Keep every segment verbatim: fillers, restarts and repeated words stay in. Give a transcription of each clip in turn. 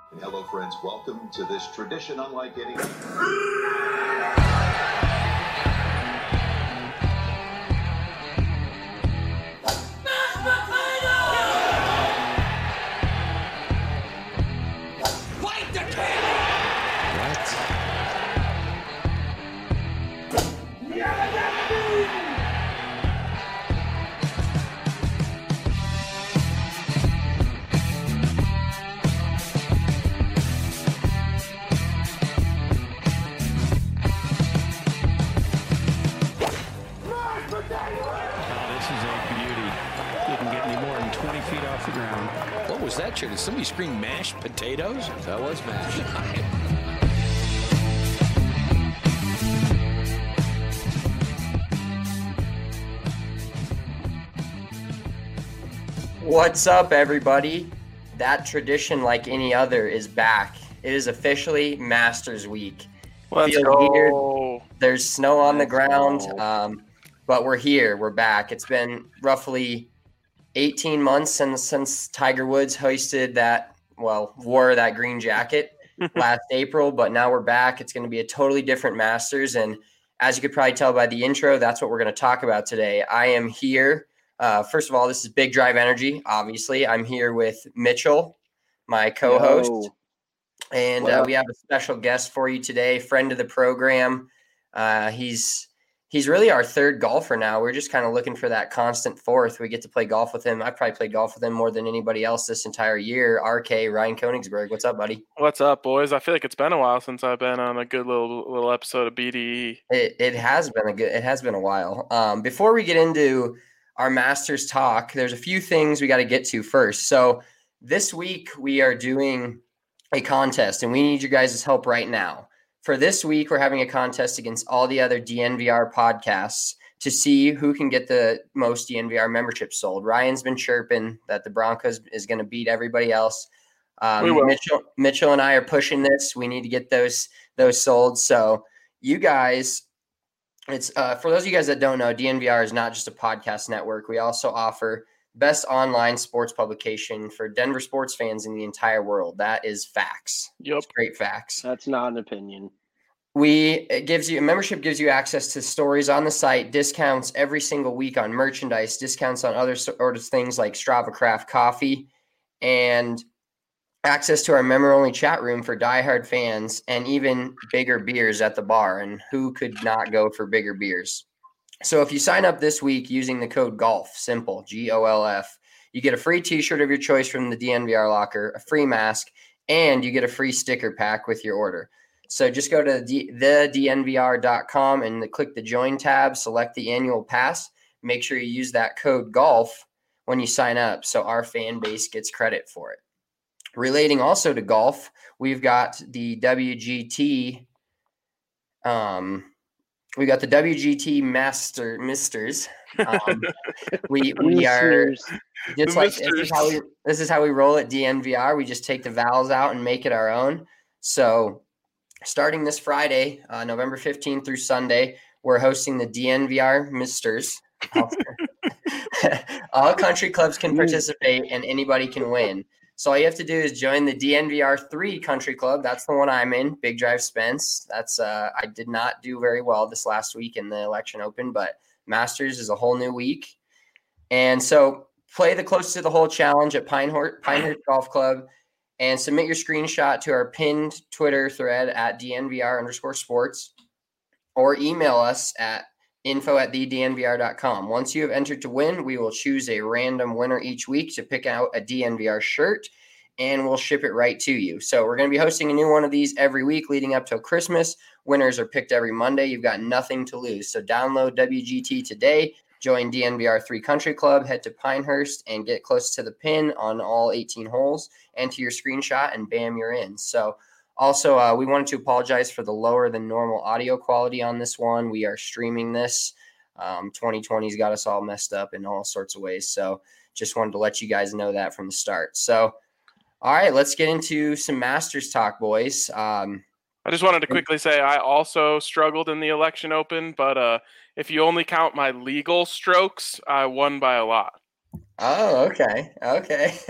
Hello, friends. Welcome to this tradition unlike any. What was that, Chair? Did somebody scream mashed potatoes? That was mashed. What's up, everybody? That tradition, like any other, is back. It is officially Masters Week. Let's Feel go. weird. There's snow on the Let's ground, go. um, but we're here. We're back. It's been roughly eighteen months since, since Tiger Woods hoisted that, well, wore that green jacket last April, but now we're back. It's going to be a totally different Masters, and as you could probably tell by the intro, that's what we're going to talk about today. I am here. Uh, first of all, this is Big Drive Energy, obviously. I'm here with Mitchell, my co-host, Yo. and What uh, up? we have a special guest for you today, friend of the program. Uh, he's he's really our third golfer now. We're just kind of looking for that constant fourth. We get to play golf with him. I probably played golf with him more than anybody else this entire year. R K, Ryan Koenigsberg. What's up, buddy? What's up, boys? I feel like it's been a while since I've been on a good little little episode of B D E. It it has been a good it has been a while. Um, before we get into our Masters talk, there's a few things we got to get to first. So this week we are doing a contest, and we need you guys' help right now. For this week, we're having a contest against all the other D N V R podcasts to see who can get the most D N V R memberships sold. Ryan's been chirping that the Broncos is going to beat everybody else. Um, We will. Mitchell, Mitchell and I are pushing this. We need to get those those sold. So you guys, it's uh, for those of you guys that don't know, D N V R is not just a podcast network. We also offer best online sports publication for Denver sports fans in the entire world. That is facts. Yep. It's great facts. That's not an opinion. We it gives you a membership gives you access to stories on the site, discounts every single week on merchandise, discounts on other sort of things like Strava Craft coffee, and access to our member-only chat room for diehard fans, and even bigger beers at the bar. And who could not go for bigger beers? So if you sign up this week using the code GOLF, simple, G O L F, you get a free t-shirt of your choice from the D N V R locker, a free mask, and you get a free sticker pack with your order. So just go to the d n v r dot com and click the join tab, select the annual pass. Make sure you use that code GOLF when you sign up so our fan base gets credit for it. Relating also to golf, we've got the W G T um we got the W G T Master Misters. Um, we we are Listeners, just The like this is Misters. how we this is how we roll at D N V R. We just take the vowels out and make it our own. So starting this Friday, uh, November fifteenth through Sunday, we're hosting the D N V R Misters. All country clubs can participate and anybody can win. So all you have to do is join the D N V R three country club. That's the one I'm in, Big Drive Spence. That's uh, I did not do very well this last week in the election open, but Masters is a whole new week. And so play the closest to the hole challenge at Pinehurst, Pinehurst Golf Club and submit your screenshot to our pinned Twitter thread at D N V R underscore sports, or email us at info at the d n v r dot com. Once you have entered to win, we will choose a random winner each week to pick out a D N V R shirt, and we'll ship it right to you. So we're going to be hosting a new one of these every week leading up till Christmas. Winners are picked every Monday. You've got nothing to lose. So download W G T today, join D N V R three Country Club, head to Pinehurst, and get close to the pin on all eighteen holes, enter your screenshot, and bam, you're in. So also, uh, we wanted to apologize for the lower than normal audio quality on this one. We are streaming this. Um, twenty twenty's got us all messed up in all sorts of ways. So just wanted to let you guys know that from the start. So, all right, let's get into some Masters talk, boys. Um, I just wanted to quickly say I also struggled in the election open, but uh, if you only count my legal strokes, I won by a lot. Oh, okay. Okay.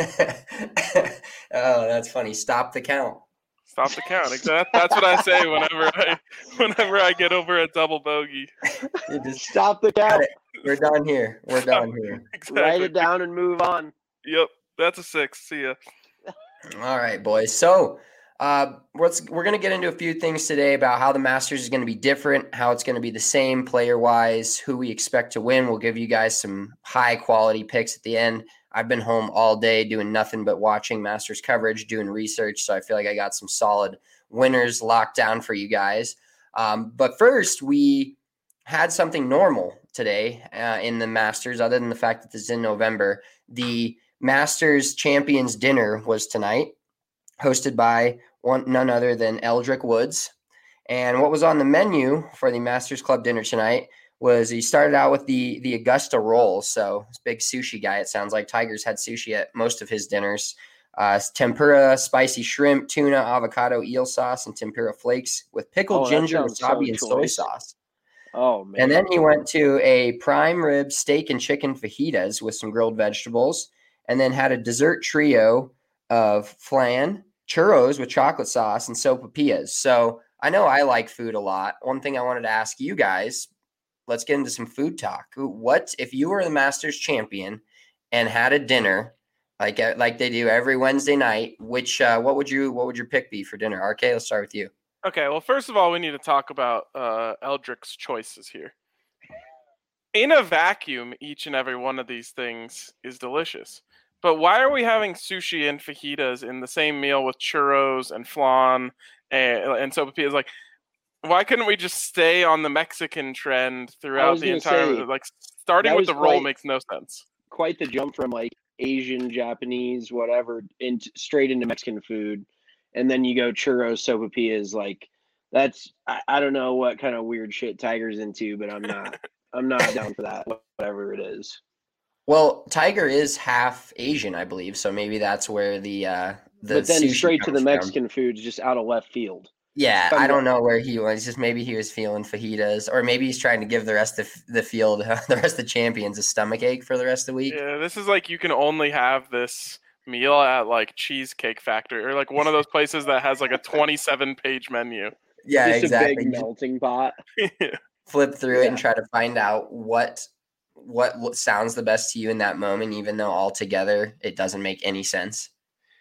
Oh, that's funny. Stop the count. Stop the count. Exactly. That's what I say whenever I whenever I get over a double bogey. You just Stop the got count. it. We're done here. We're done here. Exactly. Write it down and move on. Yep. That's a six. See ya. All right, boys. So uh, let's, we're going to get into a few things today about how the Masters is going to be different, how it's going to be the same player-wise, who we expect to win. We'll give you guys some high-quality picks at the end. I've been home all day doing nothing but watching Masters coverage, doing research, so I feel like I got some solid winners locked down for you guys. Um, but first, we had something normal today uh, in the Masters, other than the fact that this is in November. The Masters Champions Dinner was tonight, hosted by one none other than Eldrick Woods. And what was on the menu for the Masters Club dinner tonight was he started out with the the Augusta roll. So this big sushi guy, it sounds like Tiger's had sushi at most of his dinners. Uh, tempura, spicy shrimp, tuna, avocado, eel sauce, and tempura flakes with pickled Oh, that ginger, sounds wasabi, so and soy choice. sauce. Oh, man. And then he went to a prime rib steak and chicken fajitas with some grilled vegetables, and then had a dessert trio of flan, churros with chocolate sauce, and sopapillas. So I know I like food a lot. One thing I wanted to ask you guys, let's get into some food talk. What if you were the Masters champion and had a dinner like like they do every Wednesday night? Which uh, what would you what would your pick be for dinner? R K, let's start with you. Okay, well, first of all, we need to talk about uh, Eldrick's choices here. In a vacuum, each and every one of these things is delicious. But why are we having sushi and fajitas in the same meal with churros and flan and, and sopapillas? Like, why couldn't we just stay on the Mexican trend throughout was the gonna entire? say, like, starting that with was the roll quite- makes no sense. Quite the jump from like Asian, Japanese, whatever, into straight into Mexican food. And then you go churros, sopapillas. Like, that's, I, I don't know what kind of weird shit Tiger's into, but I'm not, I'm not down for that, whatever it is. Well, Tiger is half Asian, I believe, so maybe that's where the uh, the But then sushi straight to comes the from. Mexican food is just out of left field. Yeah, But I don't yeah. know where he was. Just maybe he was feeling fajitas, or maybe he's trying to give the rest of the field, the rest of the champions, a stomach ache for the rest of the week. Yeah, this is like you can only have this meal at like Cheesecake Factory or like one of those places that has like a twenty-seven page menu. Yeah, Just exactly. a big melting pot. Flip through it and Yeah. try to find out what what lo- sounds the best to you in that moment, even though altogether it doesn't make any sense.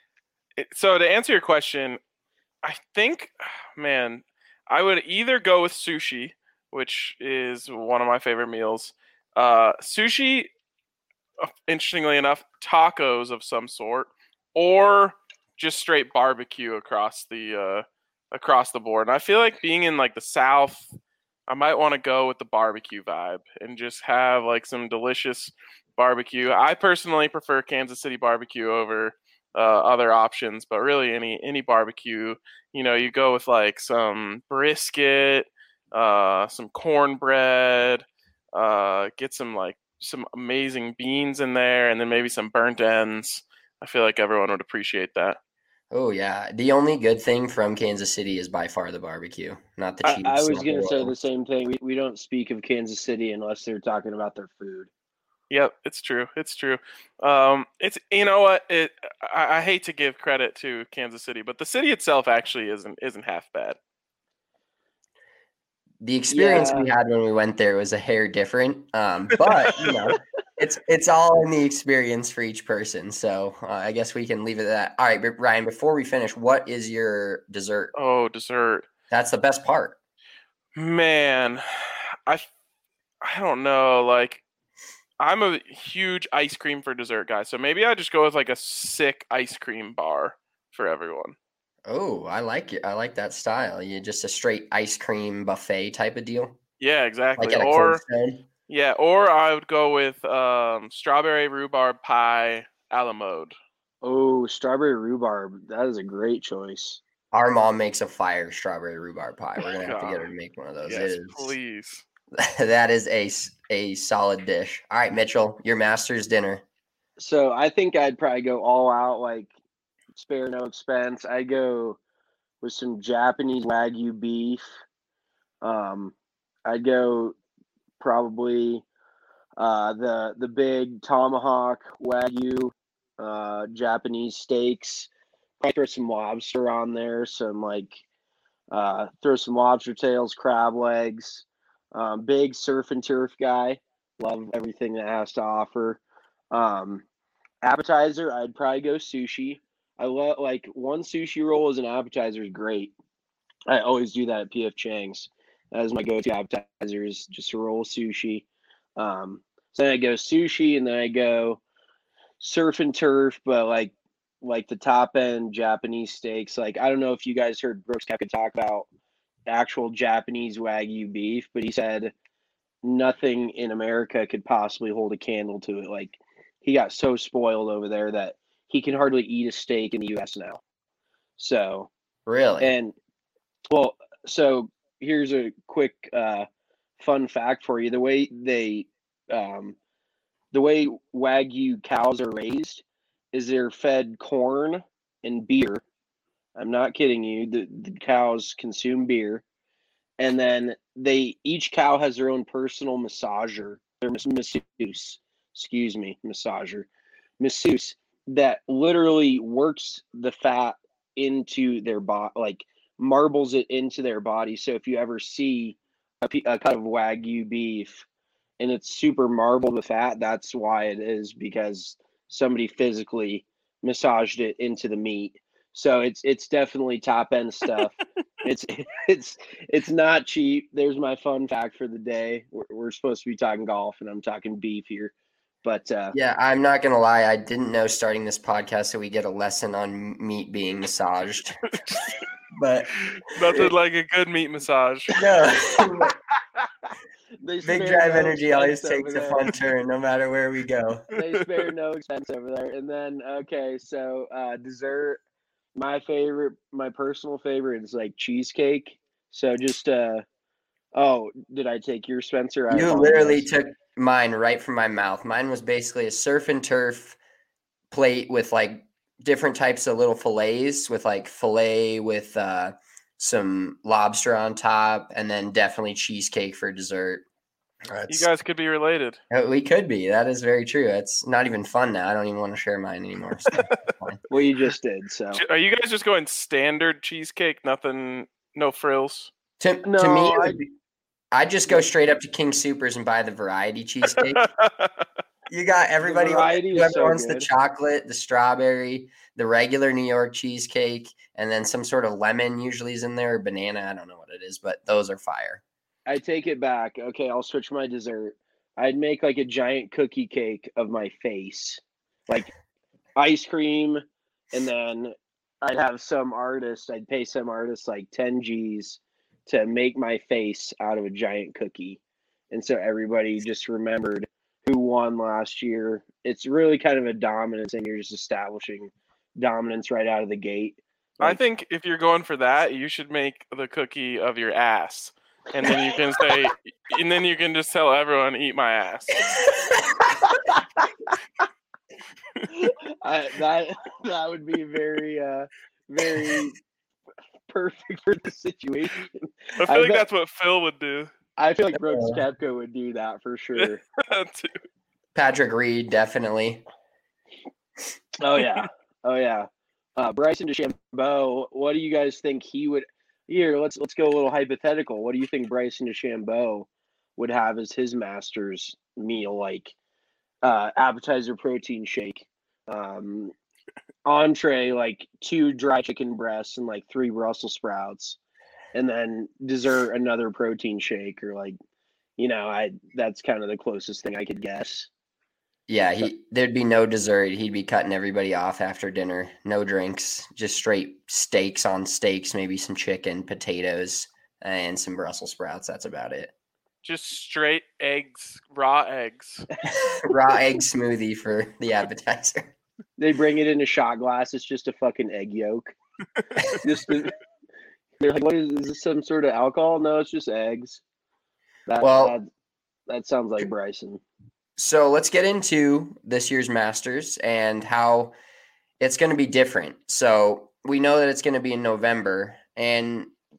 It- So to answer your question, I think, man, I would either go with sushi, which is one of my favorite meals. Uh, sushi, uh, interestingly enough, tacos of some sort, or just straight barbecue across the uh, across the board. And I feel like being in like the South, I might want to go with the barbecue vibe and just have like some delicious barbecue. I personally prefer Kansas City barbecue over uh, other options, but really any any barbecue, you know, you go with like some brisket, uh, some cornbread, uh, get some like some amazing beans in there, and then maybe some burnt ends. I feel like everyone would appreciate that. Oh yeah, the only good thing from Kansas City is by far the barbecue, not the I, cheese. I was not the going to say roll. the same thing. We, we don't speak of Kansas City unless they're talking about their food. Yep, it's true. It's true. Um, it's you know what it. I, I hate to give credit to Kansas City, but the city itself actually isn't isn't half bad. The experience Yeah. we had when we went there was a hair different, um, but you know, it's it's all in the experience for each person. So uh, I guess we can leave it at that. All right, but Ryan, before we finish, what is your dessert? Oh, dessert. That's the best part. Man, I I don't know. Like, I'm a huge ice cream for dessert guy, so maybe I just go with like a sick ice cream bar for everyone. Oh, I like it. I like that style. You just a straight ice cream buffet type of deal, Yeah, exactly. like at a Or Cold Stone. yeah, or I would go with um, strawberry rhubarb pie a la mode. Oh, strawberry rhubarb. That is a great choice. Our mom makes a fire strawberry rhubarb pie. We're gonna have to get her God. to make one of those. Yes, It is, please. that is a s- a solid dish. All right, Mitchell, your master's dinner. So I think I'd probably go all out, like spare no expense. I'd go with some Japanese Wagyu beef. Um, I'd go probably uh, the the big tomahawk wagyu, uh, Japanese steaks. Probably throw some lobster on there. Some like uh, throw some lobster tails, crab legs. Um, big surf and turf guy. Love everything that has to offer. Um, appetizer, I'd probably go sushi. I love like one sushi roll as an appetizer is great. I always do that at P F Chang's. That is my go-to appetizer is just a roll of sushi. Um, so then I go sushi, and then I go surf and turf, but like like the top end Japanese steaks. Like I don't know if you guys heard Brooks Koepka talk about actual Japanese Wagyu beef, but he said nothing in America could possibly hold a candle to it. Like he got so spoiled over there that he can hardly eat a steak in the U S now. So Really? and well, so here's a quick uh, fun fact for you. The way they, um, the way Wagyu cows are raised is they're fed corn and beer. I'm not kidding you. The, the cows consume beer, and then they each cow has their own personal massager. Their masseuse, excuse me, massager, masseuse that literally works the fat into their body, like marbles it into their body. So if you ever see a, a cut of Wagyu beef and it's super marbled with fat, that's why it is, because somebody physically massaged it into the meat. So it's it's definitely top end stuff. it's it's it's not cheap. There's my fun fact for the day. We're, we're supposed to be talking golf, and I'm talking beef here. But uh, yeah, I'm not gonna lie. I didn't know starting this podcast that we get a lesson on meat being massaged. But nothing like a good meat massage. No, Big Drive no Energy always takes a fun turn, no matter where we go. They spare no expense over there. And then okay, so uh, dessert. My favorite, my personal favorite is like cheesecake. So just uh, oh, did I take your Spencer? I you literally took mine right from my mouth. Mine was basically a surf and turf plate with like different types of little fillets, with like fillet with uh, some lobster on top, and then definitely cheesecake for dessert. That's, you guys could be related. We could be. That is very true. It's not even fun now. I don't even want to share mine anymore. So well, you just did. So are you guys just going standard cheesecake? Nothing, no frills? To, no, to me, I, I'd just go straight up to King Soopers and buy the variety cheesecake. You got everybody. Whoever so wants good. The chocolate, the strawberry, the regular New York cheesecake, and then some sort of lemon usually is in there, or banana. I don't know what it is, but those are fire. I take it back. Okay, I'll switch my dessert. I'd make like a giant cookie cake of my face, like ice cream, and then I'd have some artist, I'd pay some artist like ten G's to make my face out of a giant cookie. And so everybody just remembered who won last year. It's really kind of a dominance, and you're just establishing dominance right out of the gate. Like, I think if you're going for that, you should make the cookie of your ass. And then you can say, and then you can just tell everyone, eat my ass. I, that that would be very, uh, very perfect for the situation. I feel I like bet, that's what Phil would do. I feel like Brooks Koepka would do that for sure. Patrick Reed, definitely. Oh yeah, oh yeah. Uh, Bryson DeChambeau, what do you guys think he would? Here, let's let's go a little hypothetical. What do you think Bryson DeChambeau would have as his master's meal? Like uh, appetizer, protein shake, um, entree, like two dry chicken breasts and like three Brussels sprouts, and then dessert, another protein shake, or like, you know, I that's kind of the closest thing I could guess. Yeah, he there'd be no dessert. He'd be cutting everybody off after dinner. No drinks, just straight steaks on steaks, maybe some chicken, potatoes, and some Brussels sprouts. That's about it. Just straight eggs, raw eggs. Raw egg smoothie for the appetizer. They bring it in a shot glass. It's just a fucking egg yolk. just a, they're like, what is, is this some sort of alcohol? No, it's just eggs. That, well, that, that sounds like Bryson. So let's get into this year's Masters and how it's going to be different. So we know that it's going to be in November, and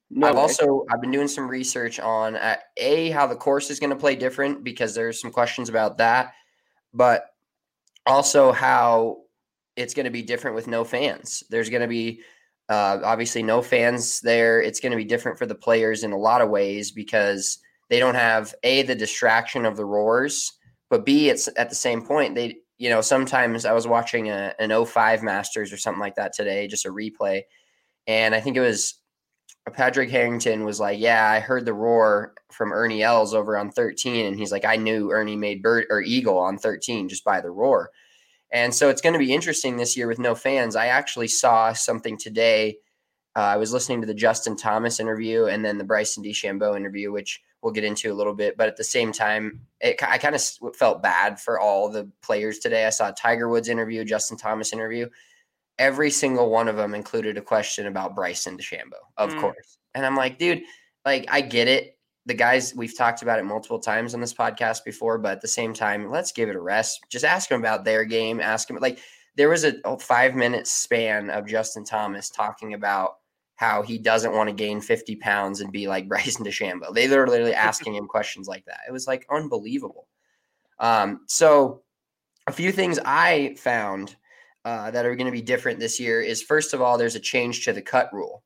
No I've way. also I've been doing some research on uh, a how the course is going to play different because there's some questions about that, but also how it's going to be different with no fans. There's going to be uh, obviously no fans there. It's going to be different for the players in a lot of ways because they don't have a the distraction of the roars, but b it's at the same point they you know sometimes I was watching a, an oh five Masters or something like that today, just a replay, and I think it was Patrick Harrington was like, yeah, I heard the roar from Ernie Els over on thirteen. And he's like, I knew Ernie made bird or eagle on thirteen just by the roar. And so it's going to be interesting this year with no fans. I actually saw something today. Uh, I was listening to the Justin Thomas interview and then the Bryson DeChambeau interview, which we'll get into a little bit. But at the same time, it, I kind of felt bad for all the players today. I saw Tiger Woods interview, Justin Thomas interview. Every single one of them included a question about Bryson DeChambeau, of mm. course. And I'm like, dude, like, I get it. The guys, we've talked about it multiple times on this podcast before, but at the same time, let's give it a rest. Just ask them about their game. Ask them, like, there was a five minute span of Justin Thomas talking about how he doesn't want to gain fifty pounds and be like Bryson DeChambeau. They were literally asking him questions like that. It was like unbelievable. Um, so a few things I found Uh, that are going to be different this year is, first of all, there's a change to the cut rule.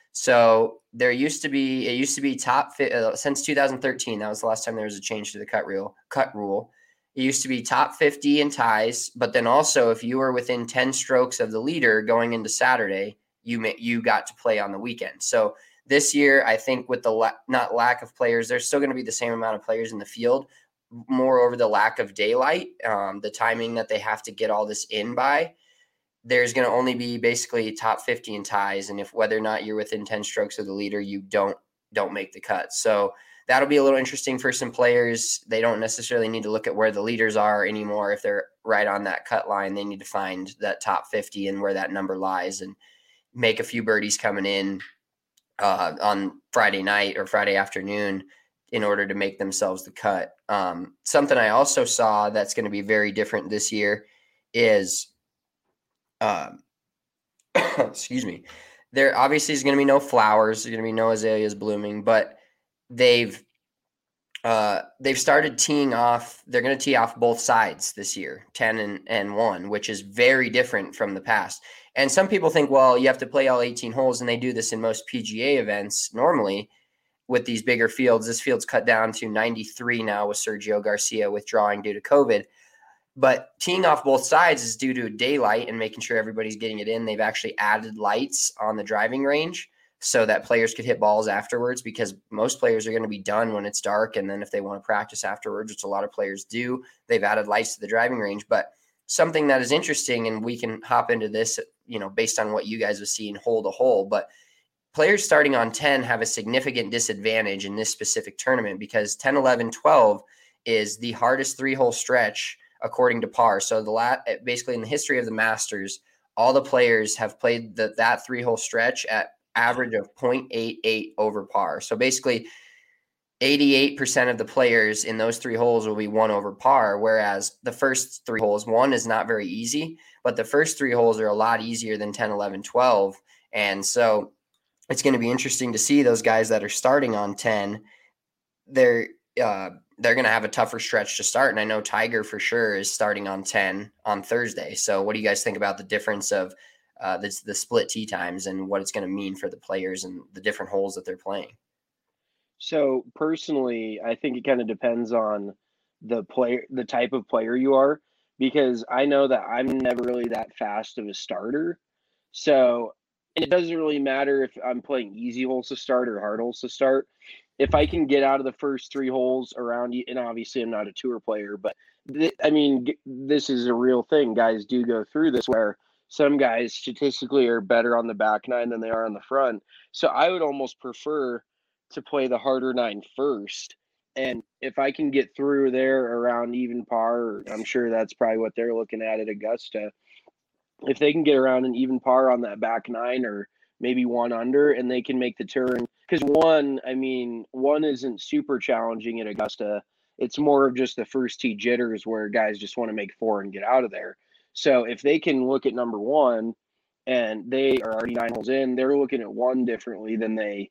So there used to be, it used to be top fi- uh, since two thousand thirteen. That was the last time there was a change to the cut rule. Cut rule. It used to be top fifty in ties, but then also if you were within ten strokes of the leader going into Saturday, you may, you got to play on the weekend. So this year, I think with the la- not lack of players, there's still going to be the same amount of players in the field. Moreover, the lack of daylight, um, the timing that they have to get all this in by. There's going to only be basically top fifty in ties. And if whether or not you're within ten strokes of the leader, you don't, don't make the cut. So that'll be a little interesting for some players. They don't necessarily need to look at where the leaders are anymore. If they're right on that cut line, they need to find that top fifty and where that number lies and make a few birdies coming in uh, on Friday night or Friday afternoon in order to make themselves the cut. Um, something I also saw that's going to be very different this year is, Um, excuse me. There obviously is going to be no flowers. There's going to be no azaleas blooming, but they've uh, they've started teeing off. They're going to tee off both sides this year, ten and, and one, which is very different from the past. And some people think, well, you have to play all eighteen holes, and they do this in most P G A events normally with these bigger fields. This field's cut down to ninety-three now with Sergio Garcia withdrawing due to COVID. But teeing off both sides is due to daylight and making sure everybody's getting it in. They've actually added lights on the driving range so that players could hit balls afterwards, because most players are going to be done when it's dark. And then if they want to practice afterwards, which a lot of players do, they've added lights to the driving range. But something that is interesting, and we can hop into this, you know, based on what you guys have seen hole to hole, but players starting on ten have a significant disadvantage in this specific tournament because ten, eleven, twelve is the hardest three-hole stretch according to par. So the lat basically in the history of the Masters, all the players have played the, that three-hole stretch at average of point eight eight over par. So basically eighty-eight percent of the players in those three holes will be one over par, whereas the first three holes, one is not very easy, but the first three holes are a lot easier than ten, eleven, twelve. And so it's going to be interesting to see those guys that are starting on ten. They're, uh, they're going to have a tougher stretch to start. And I know Tiger for sure is starting on ten on Thursday. So what do you guys think about the difference of uh, the, the split tee times and what it's going to mean for the players and the different holes that they're playing? So personally, I think it kind of depends on the player, the type of player you are, because I know that I'm never really that fast of a starter. So, and it doesn't really matter if I'm playing easy holes to start or hard holes to start. If I can get out of the first three holes around you, and obviously I'm not a tour player, but th- I mean, g- this is a real thing. Guys do go through this where some guys statistically are better on the back nine than they are on the front. So I would almost prefer to play the harder nine first. And if I can get through there around even par, I'm sure that's probably what they're looking at at Augusta. If they can get around an even par on that back nine or maybe one under, and they can make the turn. Because one, I mean, one isn't super challenging at Augusta. It's more of just the first tee jitters where guys just want to make four and get out of there. So if they can look at number one and they are already nine holes in, they're looking at one differently than they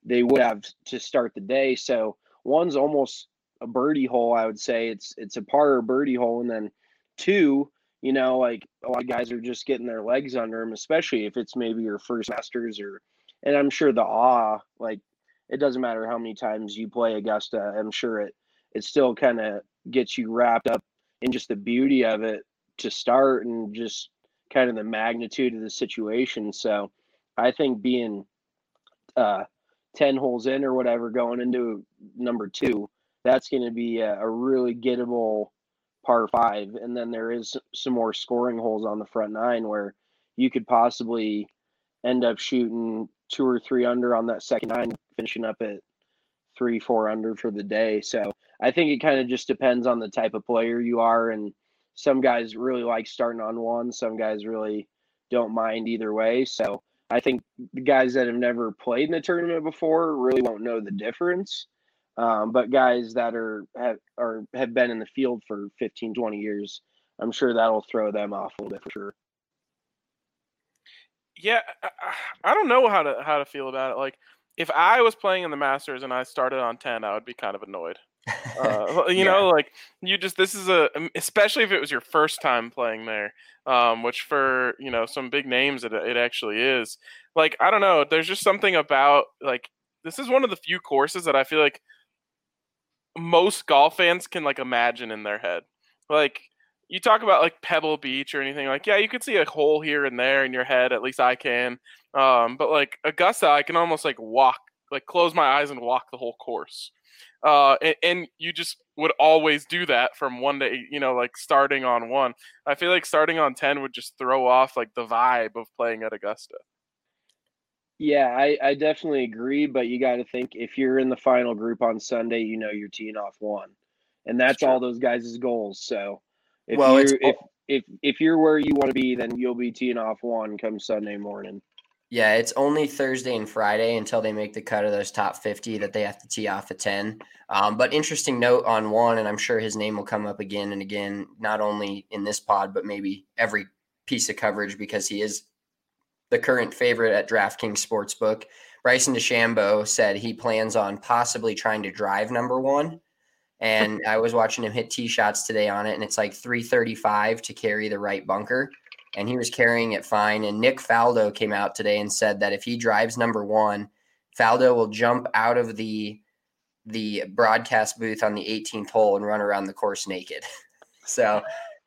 they would have to start the day. So one's almost a birdie hole, I would say. It's it's a par or birdie hole, and then two, you know, like a lot of guys are just getting their legs under them, especially if it's maybe your first Masters or, and I'm sure the awe, like it doesn't matter how many times you play Augusta, I'm sure it it still kind of gets you wrapped up in just the beauty of it to start and just kind of the magnitude of the situation. So I think being uh, ten holes in or whatever going into number two, that's going to be a, a really gettable par five. And then there is some more scoring holes on the front nine where you could possibly end up shooting two or three under on that second nine, finishing up at three, four under for the day. So I think it kind of just depends on the type of player you are. And some guys really like starting on one. Some guys really don't mind either way. So I think the guys that have never played in the tournament before really won't know the difference. Um, but guys that are have, are have been in the field for fifteen, twenty years, I'm sure that'll throw them off a little bit for sure. Yeah, I, I don't know how to how to feel about it. Like, if I was playing in the Masters and I started on ten, I would be kind of annoyed. Uh, you yeah. know, like you just this is a especially if it was your first time playing there, um, which for you know some big names it it actually is. Like, I don't know, there's just something about like this is one of the few courses that I feel like most golf fans can like imagine in their head. Like, you talk about like Pebble Beach or anything, like, yeah, you could see a hole here and there in your head. At least I can. Um, but like Augusta, I can almost like walk, like close my eyes and walk the whole course. Uh, and, and you just would always do that from one to eight, you know, like starting on one. I feel like starting on ten would just throw off like the vibe of playing at Augusta. Yeah, I, I definitely agree, but you got to think if you're in the final group on Sunday, you know you're teeing off one, and that's, that's all those guys' goals. So if well, you're if, if if you're where you want to be, then you'll be teeing off one come Sunday morning. Yeah, it's only Thursday and Friday until they make the cut of those top fifty that they have to tee off at ten. Um, but interesting note on one, and I'm sure his name will come up again and again, not only in this pod, but maybe every piece of coverage because he is the current favorite at DraftKings Sportsbook. Bryson DeChambeau said he plans on possibly trying to drive number one. And I was watching him hit tee shots today on it, and it's like three thirty-five to carry the right bunker. And he was carrying it fine. And Nick Faldo came out today and said that if he drives number one, Faldo will jump out of the the broadcast booth on the eighteenth hole and run around the course naked. So,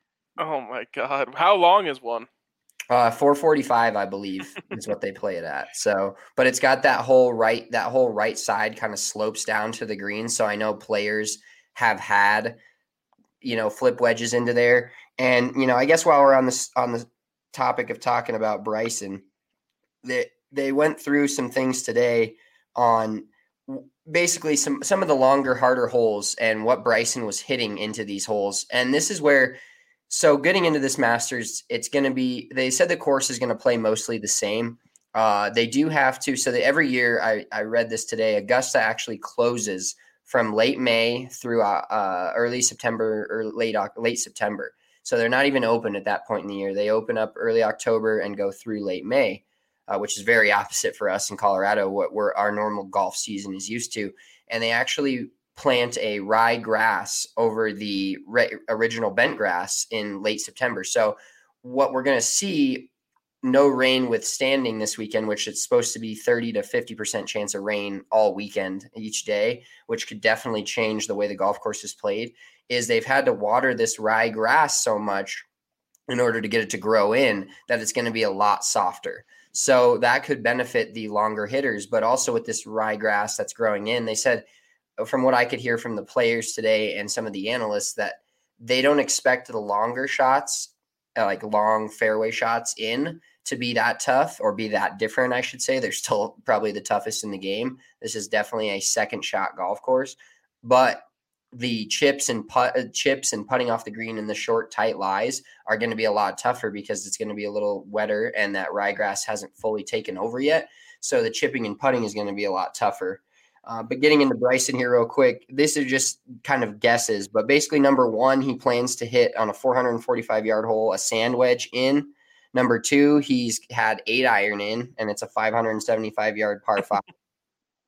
oh my God, how long is one? Uh, four forty-five, I believe, is what they play it at. So, but it's got that whole right, that whole right side kind of slopes down to the green. So I know players have had, you know, flip wedges into there. And, you know, I guess while we're on this, on the topic of talking about Bryson, they, they went through some things today on basically some, some of the longer, harder holes and what Bryson was hitting into these holes. And this is where, so getting into this Masters, it's going to be, they said the course is going to play mostly the same. Uh, they do have to, so that every year, I, I read this today, Augusta actually closes from late May through uh, uh, early September or late, late September. So they're not even open at that point in the year. They open up early October and go through late May, uh, which is very opposite for us in Colorado, what we're, our normal golf season is used to. And they actually plant a rye grass over the re- original bent grass in late September. So what we're going to see, no rain withstanding this weekend, which it's supposed to be thirty to fifty percent chance of rain all weekend each day, which could definitely change the way the golf course is played, is they've had to water this rye grass so much in order to get it to grow in that it's going to be a lot softer. So that could benefit the longer hitters, but also with this rye grass that's growing in, they said, from what I could hear from the players today and some of the analysts, that they don't expect the longer shots, uh, like long fairway shots in, to be that tough or be that different, I should say. They're still probably the toughest in the game. This is definitely a second shot golf course, but the chips and put, uh, chips and putting off the green in the short, tight lies are going to be a lot tougher because it's going to be a little wetter and that ryegrass hasn't fully taken over yet. So the chipping and putting is going to be a lot tougher. Uh, but getting into Bryson here real quick, these are just kind of guesses. But basically, number one, he plans to hit on a four forty-five yard hole a sand wedge in. Number two, he's had eight iron in, and it's a five seventy-five yard par five.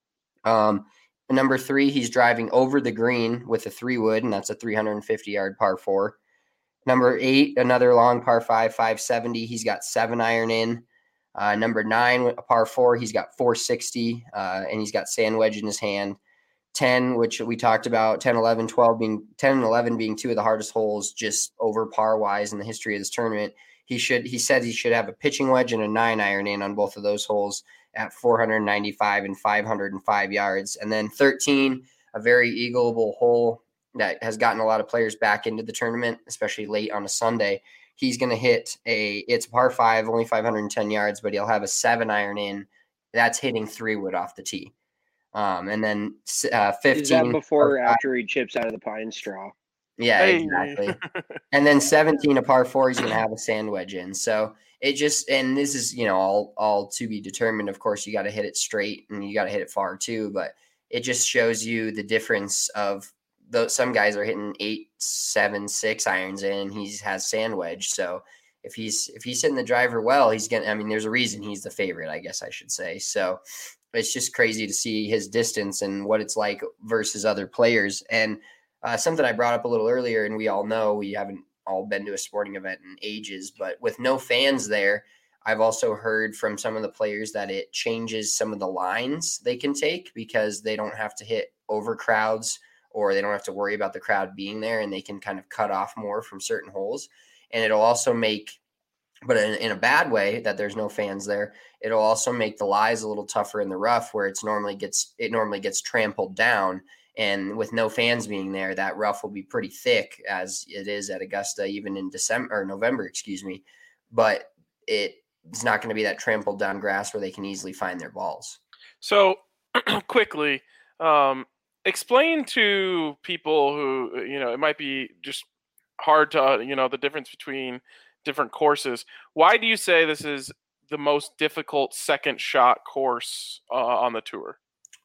Um, number three, he's driving over the green with a three wood, and that's a three hundred fifty yard par four. Number eight, another long par five, five seventy. He's got seven iron in. Uh, number nine, a par four, he's got four sixty, uh, and he's got sand wedge in his hand. ten, which we talked about, ten, eleven, twelve being ten and eleven being two of the hardest holes just over par wise in the history of this tournament. He should, he said he should have a pitching wedge and a nine iron in on both of those holes at four ninety-five and five hundred five yards. And then thirteen, a very eagleable hole that has gotten a lot of players back into the tournament, especially late on a Sunday. He's going to hit a, it's a par five, only five hundred ten yards, but he'll have a seven iron in. That's hitting three wood off the tee. Um, and then uh, fifteen. Is that before or after he chips out of the pine straw? Yeah, Hey. exactly. And then seventeen, a par four, he's going to have a sand wedge in. So it just, and this is, you know, all, all to be determined. Of course, you got to hit it straight and you got to hit it far too, but it just shows you the difference of those. Some guys are hitting eight, seven, six irons in, and he has sand wedge. So if he's, if he's hitting the driver well, he's going to, I mean, there's a reason he's the favorite, I guess I should say. So it's just crazy to see his distance and what it's like versus other players. And uh, something I brought up a little earlier, and we all know we haven't all been to a sporting event in ages, but with no fans there, I've also heard from some of the players that it changes some of the lines they can take because they don't have to hit over crowds or they don't have to worry about the crowd being there, and they can kind of cut off more from certain holes. And it'll also make, but in, in a bad way that there's no fans there, it'll also make the lies a little tougher in the rough where it's normally gets, it normally gets trampled down. And with no fans being there, that rough will be pretty thick as it is at Augusta, even in December or November, excuse me. But it, it's not going to be that trampled down grass where they can easily find their balls. So quickly, um, explain to people who, you know, it might be just hard to, you know, the difference between different courses. Why do you say this is the most difficult second shot course uh, on the tour?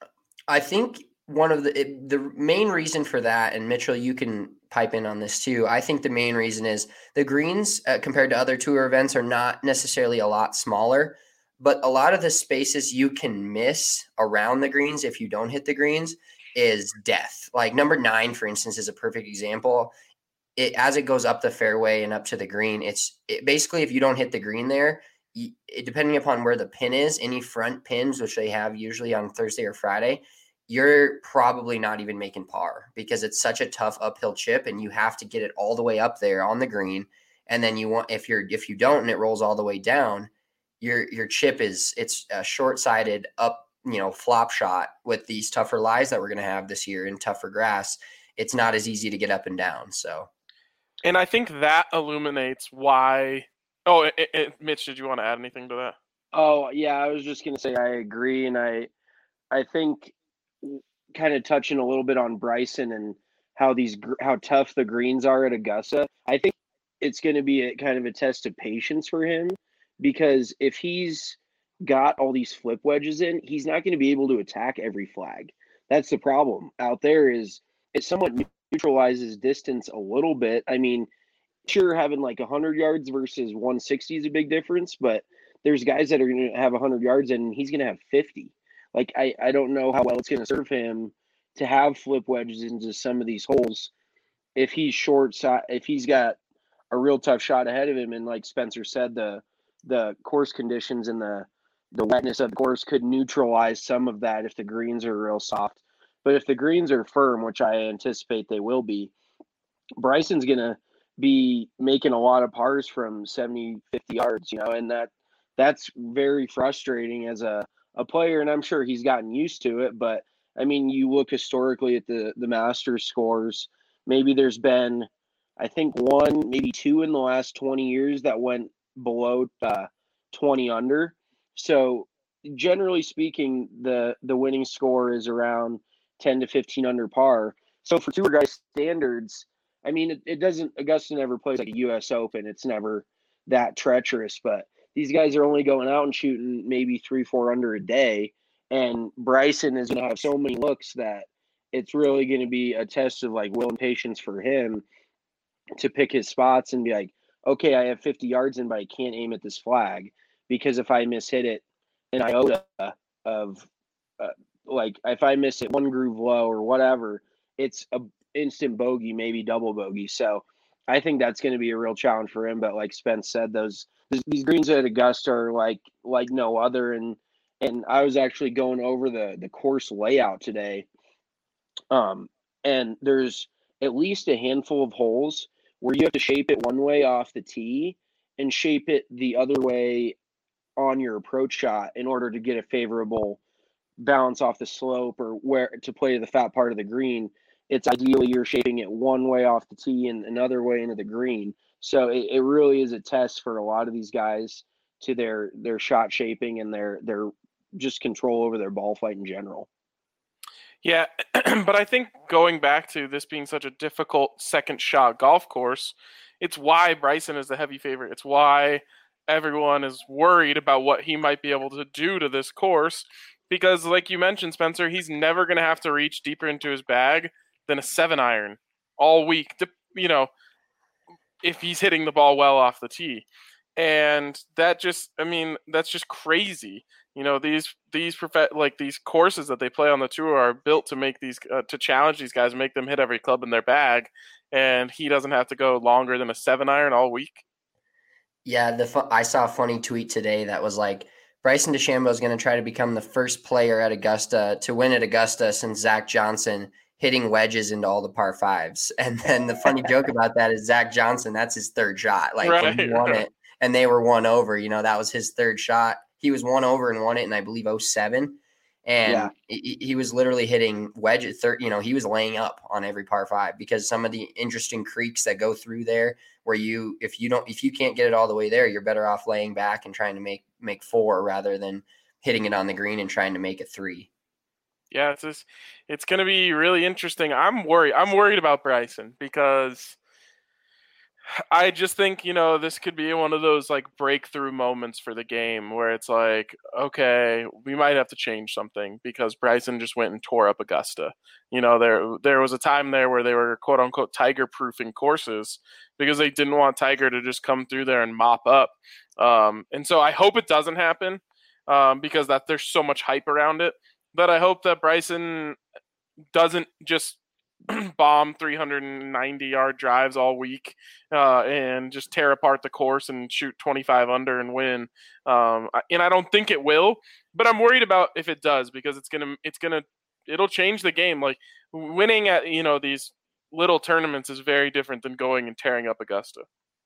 I think one of the it, the main reason for that, and Mitchell, you can pipe in on this too. I think the main reason is the greens uh, compared to other tour events are not necessarily a lot smaller, but a lot of the spaces you can miss around the greens if you don't hit the greens is death. Like number nine, for instance, is a perfect example. It, as it goes up the fairway and up to the green, it's it, basically if you don't hit the green there, you, it, depending upon where the pin is, any front pins, which they have usually on Thursday or Friday, you're probably not even making par because it's such a tough uphill chip and you have to get it all the way up there on the green. And then you want, if you're, if you don't, and it rolls all the way down, your, your chip is, it's a short-sided up, you know, flop shot with these tougher lies that we're going to have this year in tougher grass. It's not as easy to get up and down. So. And I think that illuminates why. Oh, it, it, Mitch, did you want to add anything to that? Oh yeah, I was just gonna say I agree, and I, I think, kind of touching a little bit on Bryson and how these how tough the greens are at Augusta. I think it's going to be a kind of a test of patience for him because if he's got all these flip wedges in, he's not going to be able to attack every flag. That's the problem out there. Is it somewhat neutralizes distance a little bit. I mean, sure, having like one hundred yards versus one sixty is a big difference, but there's guys that are going to have one hundred yards and he's going to have fifty. Like, I, I don't know how well it's going to serve him to have flip wedges into some of these holes if he's short side, if he's got a real tough shot ahead of him. And like Spencer said, the the course conditions and the, the wetness of the course could neutralize some of that if the greens are real soft. But if the greens are firm, which I anticipate they will be, Bryson's going to be making a lot of pars from seventy, fifty yards, you know, and that that's very frustrating as a, a player. And I'm sure he's gotten used to it. But I mean, you look historically at the, the Masters scores, maybe there's been, I think one, maybe two in the last twenty years that went below uh, twenty under. So generally speaking, the, the winning score is around ten to fifteen under par. So for tour guys standards, I mean, it, it doesn't, Augusta never plays like a U S Open. It's never that treacherous, but these guys are only going out and shooting maybe three, four under a day. And Bryson is going to have so many looks that it's really going to be a test of like will and patience for him to pick his spots and be like, okay, I have fifty yards in, but I can't aim at this flag because if I mishit it an iota of uh, like if I miss it one groove low or whatever, it's a instant bogey, maybe double bogey. So I think that's going to be a real challenge for him. But like Spence said, those these greens at Augusta are like like no other. And and I was actually going over the the course layout today, um, and there's at least a handful of holes where you have to shape it one way off the tee and shape it the other way on your approach shot in order to get a favorable bounce off the slope or where to play the fat part of the green. It's ideally you're shaping it one way off the tee and another way into the green. So it, it really is a test for a lot of these guys to their their shot shaping and their their just control over their ball flight in general. Yeah, but I think going back to this being such a difficult second shot golf course, it's why Bryson is the heavy favorite. It's why everyone is worried about what he might be able to do to this course. Because like you mentioned, Spencer, he's never going to have to reach deeper into his bag than a seven iron all week, you know, if he's hitting the ball well off the tee. And that just, I mean, that's just crazy. You know, these these prof- like these courses that they play on the tour are built to make these uh, to challenge these guys, make them hit every club in their bag, and he doesn't have to go longer than a seven iron all week. Yeah, the fu- I saw a funny tweet today that was like, Bryson DeChambeau is going to try to become the first player at Augusta to win at Augusta since Zach Johnson hitting wedges into all the par fives. And then the funny joke about that is Zach Johnson, that's his third shot. Like right, when he won right. it and they were one over, you know, that was his third shot. He was one over and won it in, I believe, oh seven. And Yeah. he, he was literally hitting wedge at third. You know, he was laying up on every par five because some of the interesting creeks that go through there where you, if you don't, if you can't get it all the way there, you're better off laying back and trying to make, make four rather than hitting it on the green and trying to make it three. Yeah, it's just, it's going to be really interesting. I'm worried. I'm worried about Bryson because I just think, you know, this could be one of those like breakthrough moments for the game where it's like, okay, we might have to change something because Bryson just went and tore up Augusta. You know, there there was a time there where they were quote unquote Tiger proofing courses because they didn't want Tiger to just come through there and mop up. Um, and so I hope it doesn't happen um, because that there's so much hype around it. But I hope that Bryson doesn't just bomb three hundred ninety yard drives all week uh, and just tear apart the course and shoot twenty-five under and win. Um, and I don't think it will, but I'm worried about if it does because it's gonna, it's gonna, it'll change the game. Like winning at you know these little tournaments is very different than going and tearing up Augusta.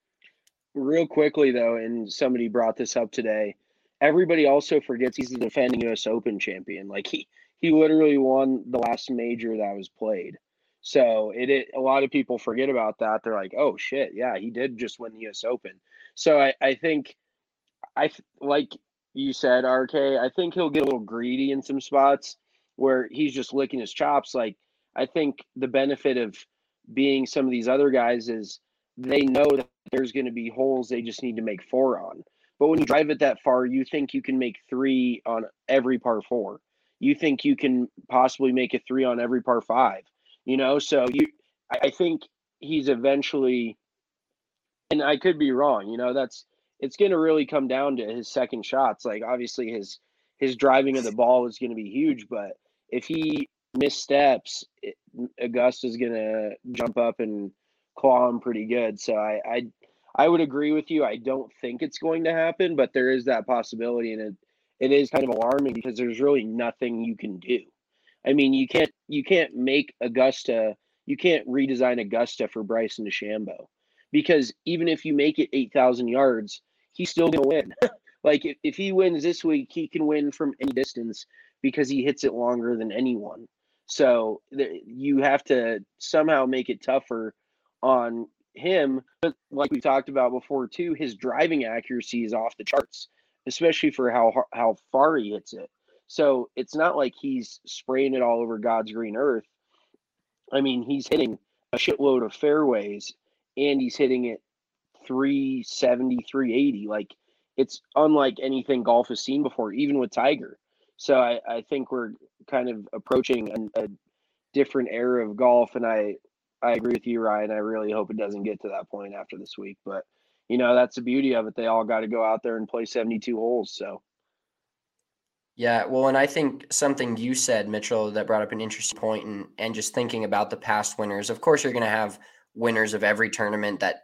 Real quickly though, and somebody brought this up today. Everybody also forgets he's the defending U S Open champion. Like he he literally won the last major that was played. So it, it a lot of people forget about that. They're like, oh shit, yeah, he did just win the U S Open. So I, I think I like you said, R K, I think he'll get a little greedy in some spots where he's just licking his chops. Like I think the benefit of being some of these other guys is they know that there's going to be holes they just need to make four on. But when you drive it that far, you think you can make three on every par four. You think you can possibly make a three on every par five. You know, so you, I think he's eventually, and I could be wrong. You know, that's it's going to really come down to his second shots. Like obviously his his driving of the ball is going to be huge, but if he missteps, it, Augusta's going to jump up and claw him pretty good. So I, I I would agree with you. I don't think it's going to happen, but there is that possibility, and it it is kind of alarming because there's really nothing you can do. I mean, you can't you can't make Augusta, you can't redesign Augusta for Bryson DeChambeau because even if you make it eight thousand yards, he's still going to win. Like if, if he wins this week, he can win from any distance because he hits it longer than anyone. So the, you have to somehow make it tougher on him. But like we talked about before too, his driving accuracy is off the charts, especially for how how far he hits it. So it's not like he's spraying it all over God's green earth. I mean, he's hitting a shitload of fairways and he's hitting it three seventy, three eighty. Like it's unlike anything golf has seen before, even with Tiger. So I, I think we're kind of approaching a, a different era of golf. And I, I agree with you, Ryan. I really hope it doesn't get to that point after this week. But, you know, that's the beauty of it. They all got to go out there and play seventy-two holes. So. Yeah, well, and I think something you said, Mitchell, that brought up an interesting point, and and just thinking about the past winners. Of course, you're going to have winners of every tournament that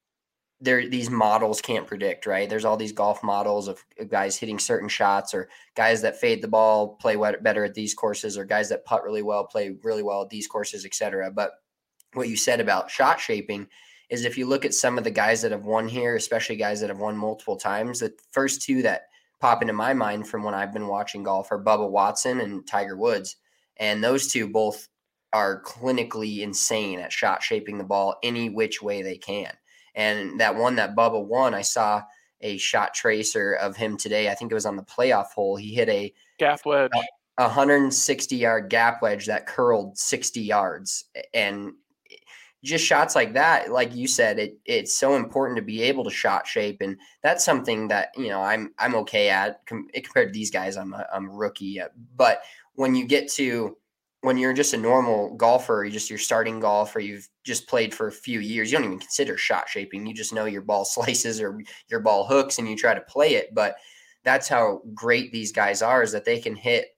there these models can't predict, right? There's all these golf models of guys hitting certain shots, or guys that fade the ball play better at these courses, or guys that putt really well play really well at these courses, et cetera. But what you said about shot shaping is, if you look at some of the guys that have won here, especially guys that have won multiple times, the first two that pop into my mind from when I've been watching golf are Bubba Watson and Tiger Woods. And those two both are clinically insane at shot shaping the ball any which way they can. And that one that Bubba won, I saw a shot tracer of him today. I think it was on the playoff hole. He hit a Gap wedge, a one hundred sixty yard gap wedge that curled sixty yards. And just shots like that, like you said, it it's so important to be able to shot shape, and that's something that, you know, I'm I'm okay at com- compared to these guys. I'm a, I'm a rookie, at. But when you get to when you're just a normal golfer, you just you're starting golf, or you've just played for a few years, you don't even consider shot shaping. You just know your ball slices or your ball hooks, and you try to play it. But that's how great these guys are, is that they can hit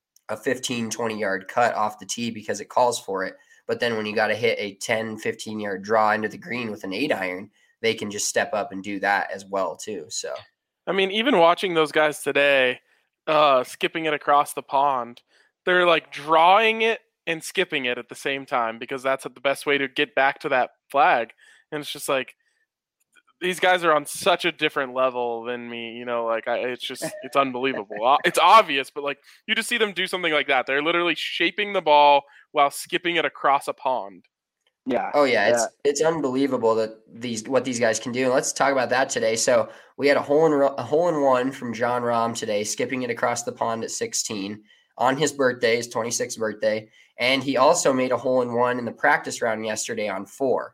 a fifteen, twenty yard cut off the tee because it calls for it. But then when you got to hit a ten, fifteen yard draw into the green with an eight iron, they can just step up and do that as well too. So, I mean, even watching those guys today, uh, skipping it across the pond, they're like drawing it and skipping it at the same time, because that's the best way to get back to that flag. And it's just like, these guys are on such a different level than me, you know, like I, it's just, it's unbelievable. It's obvious, but like, you just see them do something like that. They're literally shaping the ball while skipping it across a pond. Yeah. Oh yeah, yeah. it's it's unbelievable that these what these guys can do. And let's talk about that today. So we had a hole in a hole in one from Jon Rahm today, skipping it across the pond at sixteen on his birthday, his twenty-sixth birthday, and he also made a hole in one in the practice round yesterday on four.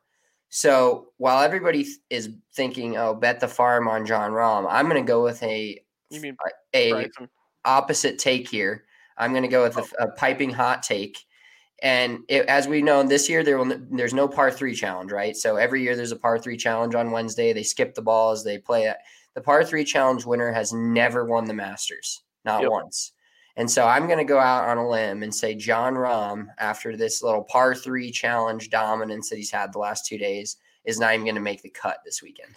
So while everybody is thinking, "Oh, bet the farm on Jon Rahm," I'm going to go with a You mean a Bryson. opposite take here. I'm going to go with a, a piping hot take. And it, as we know, this year there will there's no par three challenge, right? So every year there's a par three challenge on Wednesday. They skip the balls, they play it. The par three challenge winner has never won the Masters, not Yep. once. And so I'm going to go out on a limb and say Jon Rahm, after this little par three challenge dominance that he's had the last two days, is not even going to make the cut this weekend.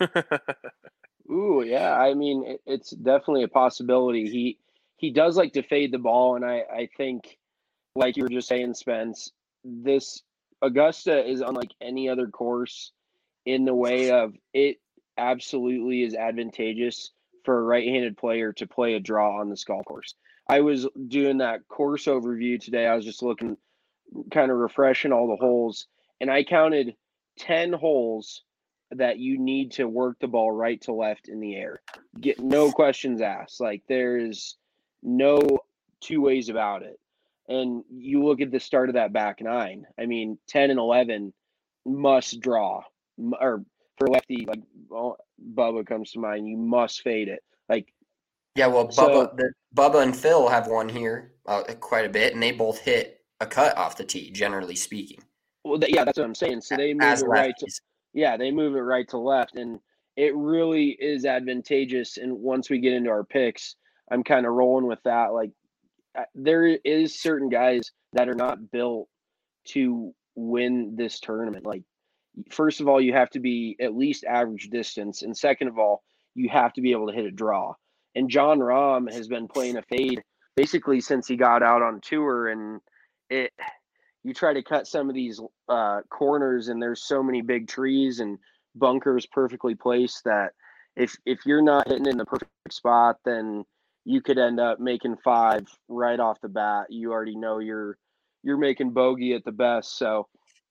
Ooh, yeah. I mean, it, it's definitely a possibility. He he does like to fade the ball, and I I think, like you were just saying, Spence, this Augusta is unlike any other course in the way of it absolutely is advantageous for a right-handed player to play a draw on this golf course. I was doing that course overview today. I was just looking, kind of refreshing all the holes, and I counted ten holes that you need to work the ball right to left in the air. Get no questions asked. Like, there's no two ways about it. And you look at the start of that back nine. I mean, ten and eleven must draw, or for lefty, like well, Bubba comes to mind. You must fade it. Like, Yeah, well, Bubba, So- the, Bubba and Phil have won here uh, quite a bit, and they both hit a cut off the tee, generally speaking. well, th- yeah, that's what I'm saying. So they move As it right to lefties. yeah, they move it right to left, and it really is advantageous. And once we get into our picks, I'm kind of rolling with that. Like, uh, there is certain guys that are not built to win this tournament. Like, first of all, you have to be at least average distance, and second of all, you have to be able to hit a draw. And Jon Rahm has been playing a fade basically since he got out on tour, and it you try to cut some of these uh, corners, and there's so many big trees and bunkers perfectly placed that if if you're not hitting in the perfect spot, then you could end up making five right off the bat. You already know you're you're making bogey at the best. So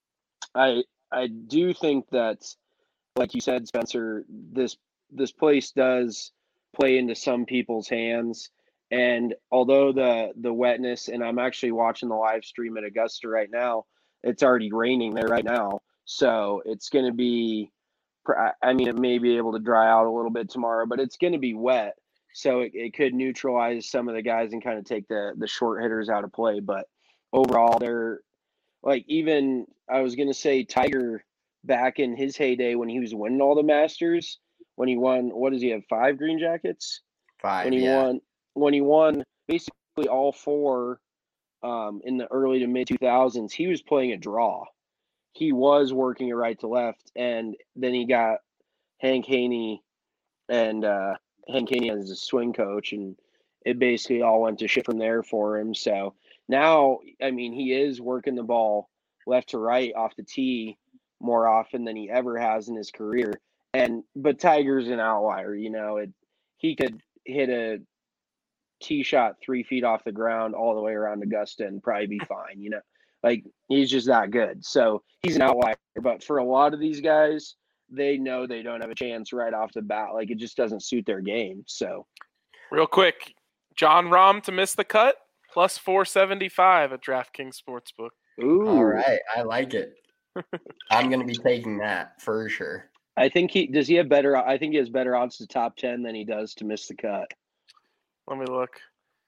I I do think that, like you said, Spencer, this this place does play into some people's hands. And although the the wetness, and I'm actually watching the live stream at Augusta right now, it's already raining there right now. So it's going to be, I mean, it may be able to dry out a little bit tomorrow, but it's going to be wet. So it, it could neutralize some of the guys and kind of take the the short hitters out of play. But overall, they're like, even I was going to say Tiger back in his heyday when he was winning all the Masters, when he won, what does he have, five green jackets? Five, When he yeah. won, when he won basically all four um, in the early to mid two thousands, he was playing a draw. He was working it right to left, and then he got Hank Haney and uh, Hank Haney as a swing coach, and it basically all went to shit from there for him. So now, I mean, he is working the ball left to right off the tee more often than he ever has in his career. And but Tiger's an outlier, you know. It he could hit a tee shot three feet off the ground all the way around Augusta and probably be fine, you know. Like he's just that good. So he's an outlier. But for a lot of these guys, they know they don't have a chance right off the bat. Like it just doesn't suit their game. So real quick, John Rahm to miss the cut plus four seventy-five at DraftKings Sportsbook. Ooh. All right, I like it. I'm going to be taking that for sure. I think he does. He have better. I think he has better odds to top ten than he does to miss the cut. Let me look.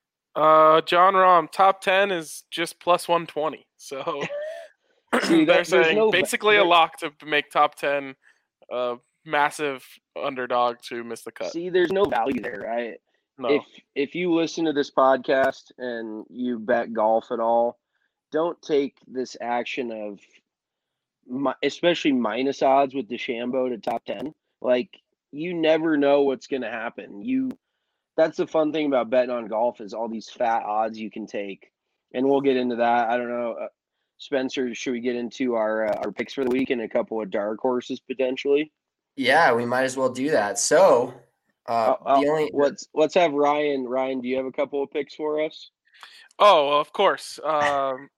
Uh, John Rahm top ten is just plus one twenty. So See, they're that, saying no, basically a lock to make top ten. Uh, massive underdog to miss the cut. See, there's no value there, right? No. If if you listen to this podcast and you bet golf at all, don't take this action of, especially minus odds with DeChambeau to top ten. Like you never know what's going to happen. You, that's the fun thing about betting on golf is all these fat odds you can take, and we'll get into that. I don't know, uh, Spencer. Should we get into our uh, our picks for the week and a couple of dark horses potentially? Yeah, we might as well do that. So, uh, uh, the only let's let's have Ryan. Ryan, do you have a couple of picks for us? Oh, of course. Um,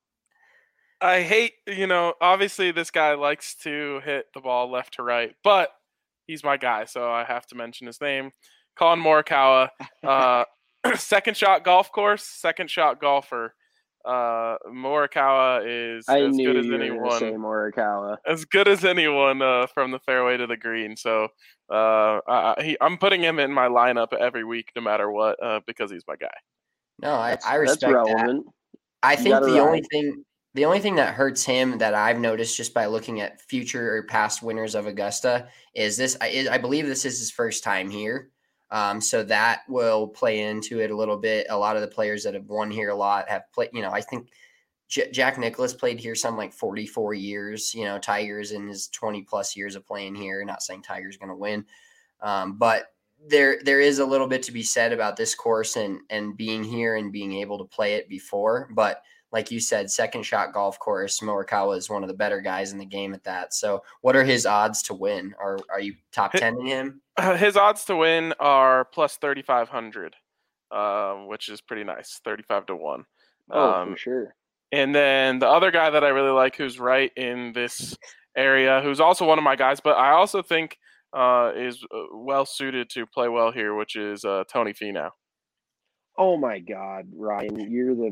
I hate, you know, obviously this guy likes to hit the ball left to right, but he's my guy, so I have to mention his name. Colin Morikawa, uh, second shot golf course, second shot golfer. Uh, Morikawa is I as knew good as you were anyone. gonna say Morikawa. As good as anyone uh, from the fairway to the green. So uh, I, he, I'm putting him in my lineup every week, no matter what, uh, because he's my guy. No, I, That's, I respect that's relevant. that. I You think gotta the ride. only thing the only thing that hurts him that I've noticed just by looking at future or past winners of Augusta is this. I, I believe this is his first time here. Um, so that will play into it a little bit. A lot of the players that have won here a lot have played, you know, I think J- Jack Nicklaus played here some like forty-four years, you know, Tiger's in his twenty plus years of playing here. Not saying Tiger's going to win. Um, but there, there is a little bit to be said about this course and, and being here and being able to play it before. But like you said, second shot golf course, Morikawa is one of the better guys in the game at that. So what are his odds to win? Are, are you top ten in him? His odds to win are plus thirty-five hundred, uh, which is pretty nice, thirty-five to one. Oh, Um, for sure. And then the other guy that I really like who's right in this area, who's also one of my guys, but I also think uh, is well suited to play well here, which is uh, Tony Finau. Oh my God, Ryan, you're the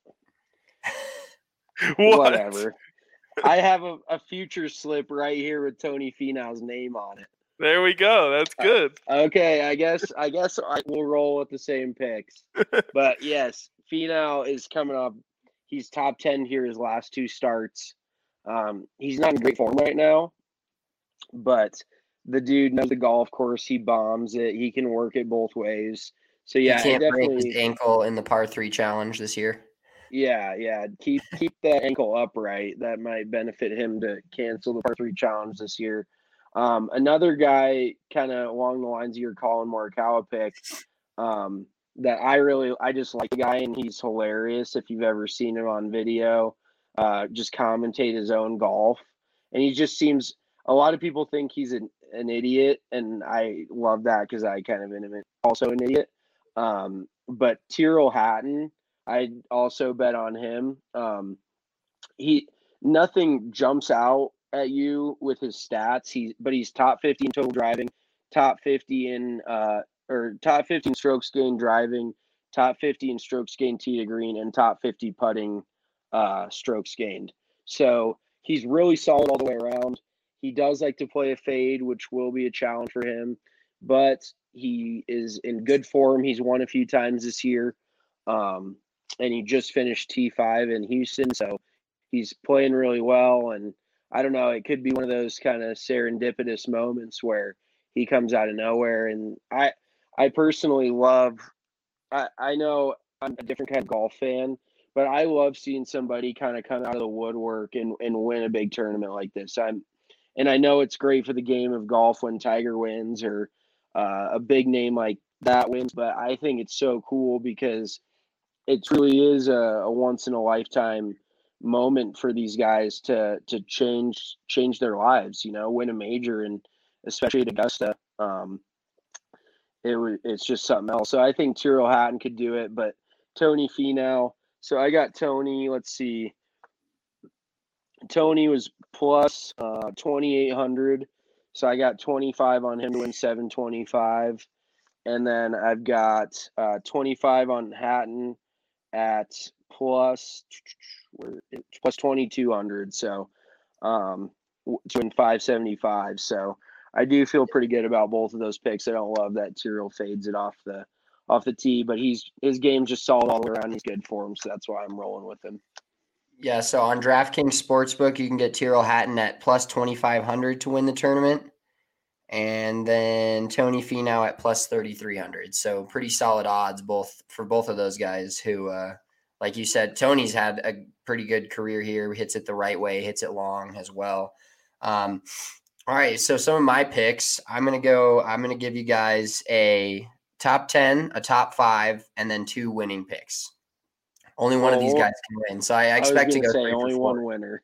What? whatever. I have a, a future slip right here with Tony Finau's name on it. There we go. That's good. Okay, I guess I guess I will roll with the same picks. But yes, Finau is coming up. He's top ten here his last two starts. Um, he's not in great form right now, but the dude knows the golf course. He bombs it. He can work it both ways. So yeah, he can't definitely. break his ankle in the par three challenge this year. Yeah, yeah. Keep keep that ankle upright. That might benefit him to cancel the par three challenge this year. Um, another guy, kind of along the lines of your Colin Morikawa pick, um, that I really, I just like the guy, and he's hilarious. If you've ever seen him on video, uh, just commentate his own golf, and he just seems. A lot of people think he's an, an idiot, and I love that because I kind of am also an idiot. Um, but Tyrrell Hatton, I also bet on him. Um, he nothing jumps out at you with his stats. He but he's top fifty in total driving, top fifty in uh or top fifty in strokes gained driving, top fifty in strokes gained tee to green, and top fifty putting uh strokes gained. So he's really solid all the way around. He does like to play a fade, which will be a challenge for him, but he is in good form. He's won a few times this year. Um, and he just finished T five in Houston, so he's playing really well. And I don't know, it could be one of those kind of serendipitous moments where he comes out of nowhere. And I, I personally love. I, I know I'm a different kind of golf fan, but I love seeing somebody kind of come out of the woodwork and, and win a big tournament like this. I'm, and I know it's great for the game of golf when Tiger wins or uh, a big name like that wins, but I think it's so cool because it truly is a, a once in a lifetime moment for these guys to to change change their lives. You know, win a major, and especially at Augusta. Um, it was it's just something else. So I think Tyrrell Hatton could do it, but Tony Finau. So I got Tony. Let's see. Tony was plus uh, twenty-eight hundred. So I got twenty-five on him to win seven twenty-five. And then I've got uh, twenty-five on Hatton at plus, plus twenty-two hundred. So um, to win five seventy-five. So I do feel pretty good about both of those picks. I don't love that Tyrrell fades it off the off the tee, but he's his game's just solid all around. He's good for him, so that's why I'm rolling with him. Yeah, so on DraftKings Sportsbook, you can get Tyrrell Hatton at plus twenty-five hundred to win the tournament. And then Tony Finau at plus thirty-three hundred. So pretty solid odds both for both of those guys who, uh, like you said, Tony's had a pretty good career here. Hits it the right way, hits it long as well. Um, all right, so some of my picks, I'm going to go, I'm going to give you guys a top ten, a top five, and then two winning picks. Only one oh, of these guys can win. So I, I expect I to go say only one winner.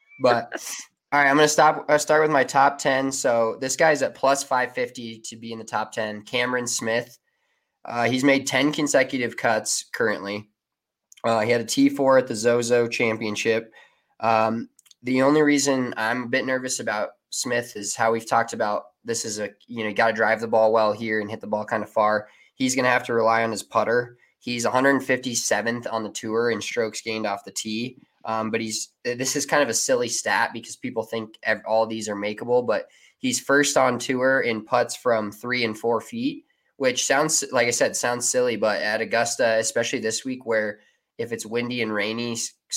But all right, I'm going to stop. I'll start with my top ten. So this guy's at plus five fifty to be in the top ten. Cameron Smith. Uh, he's made ten consecutive cuts currently. Uh, he had a T four at the Zozo Championship. Um, the only reason I'm a bit nervous about Smith is how we've talked about this is a, you know, you got to drive the ball well here and hit the ball kind of far. He's going to have to rely on his putter. He's one hundred fifty-seventh on the tour in strokes gained off the tee. Um, but he's this is kind of a silly stat because people think all these are makeable, but he's first on tour in putts from three and four feet, which sounds, like I said, sounds silly, but at Augusta, especially this week where if it's windy and rainy,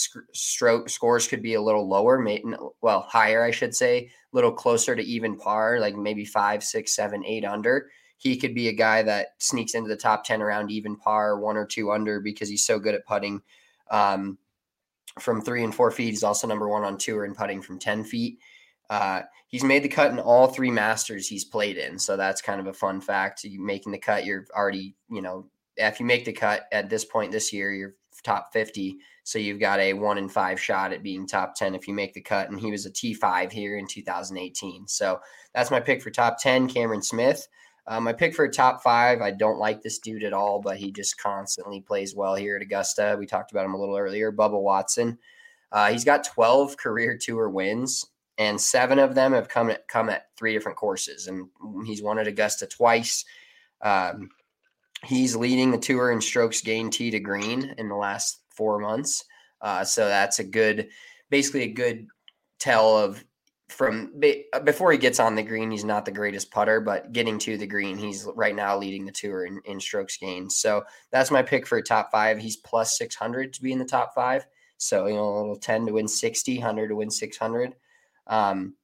stroke scores could be a little lower, well, higher, I should say, a little closer to even par, like maybe five, six, seven, eight under. He could be a guy that sneaks into the top ten around even par, one or two under because he's so good at putting. Um, From three and four feet. He's also number one on tour in putting from ten feet. Uh, he's made the cut in all three Masters he's played in. So that's kind of a fun fact. You making the cut, you're already, you know, if you make the cut at this point this year, you're top fifty. So you've got a one in five shot at being top ten if you make the cut. And he was a T five here in two thousand eighteen. So that's my pick for top ten, Cameron Smith. Uh, my pick for a top five, I don't like this dude at all, but he just constantly plays well here at Augusta. We talked about him a little earlier, Bubba Watson. Uh, he's got twelve career tour wins, and seven of them have come at, come at three different courses, and he's won at Augusta twice. Um, he's leading the tour in strokes gained tee to green in the last four months. Uh, so that's a good, basically a good tell of from before he gets on the green, he's not the greatest putter, but getting to the green, he's right now leading the tour in, in strokes gained. So that's my pick for a top five. He's plus six hundred to be in the top five. So, you know, a little ten to win sixty, one hundred to win six hundred. Um,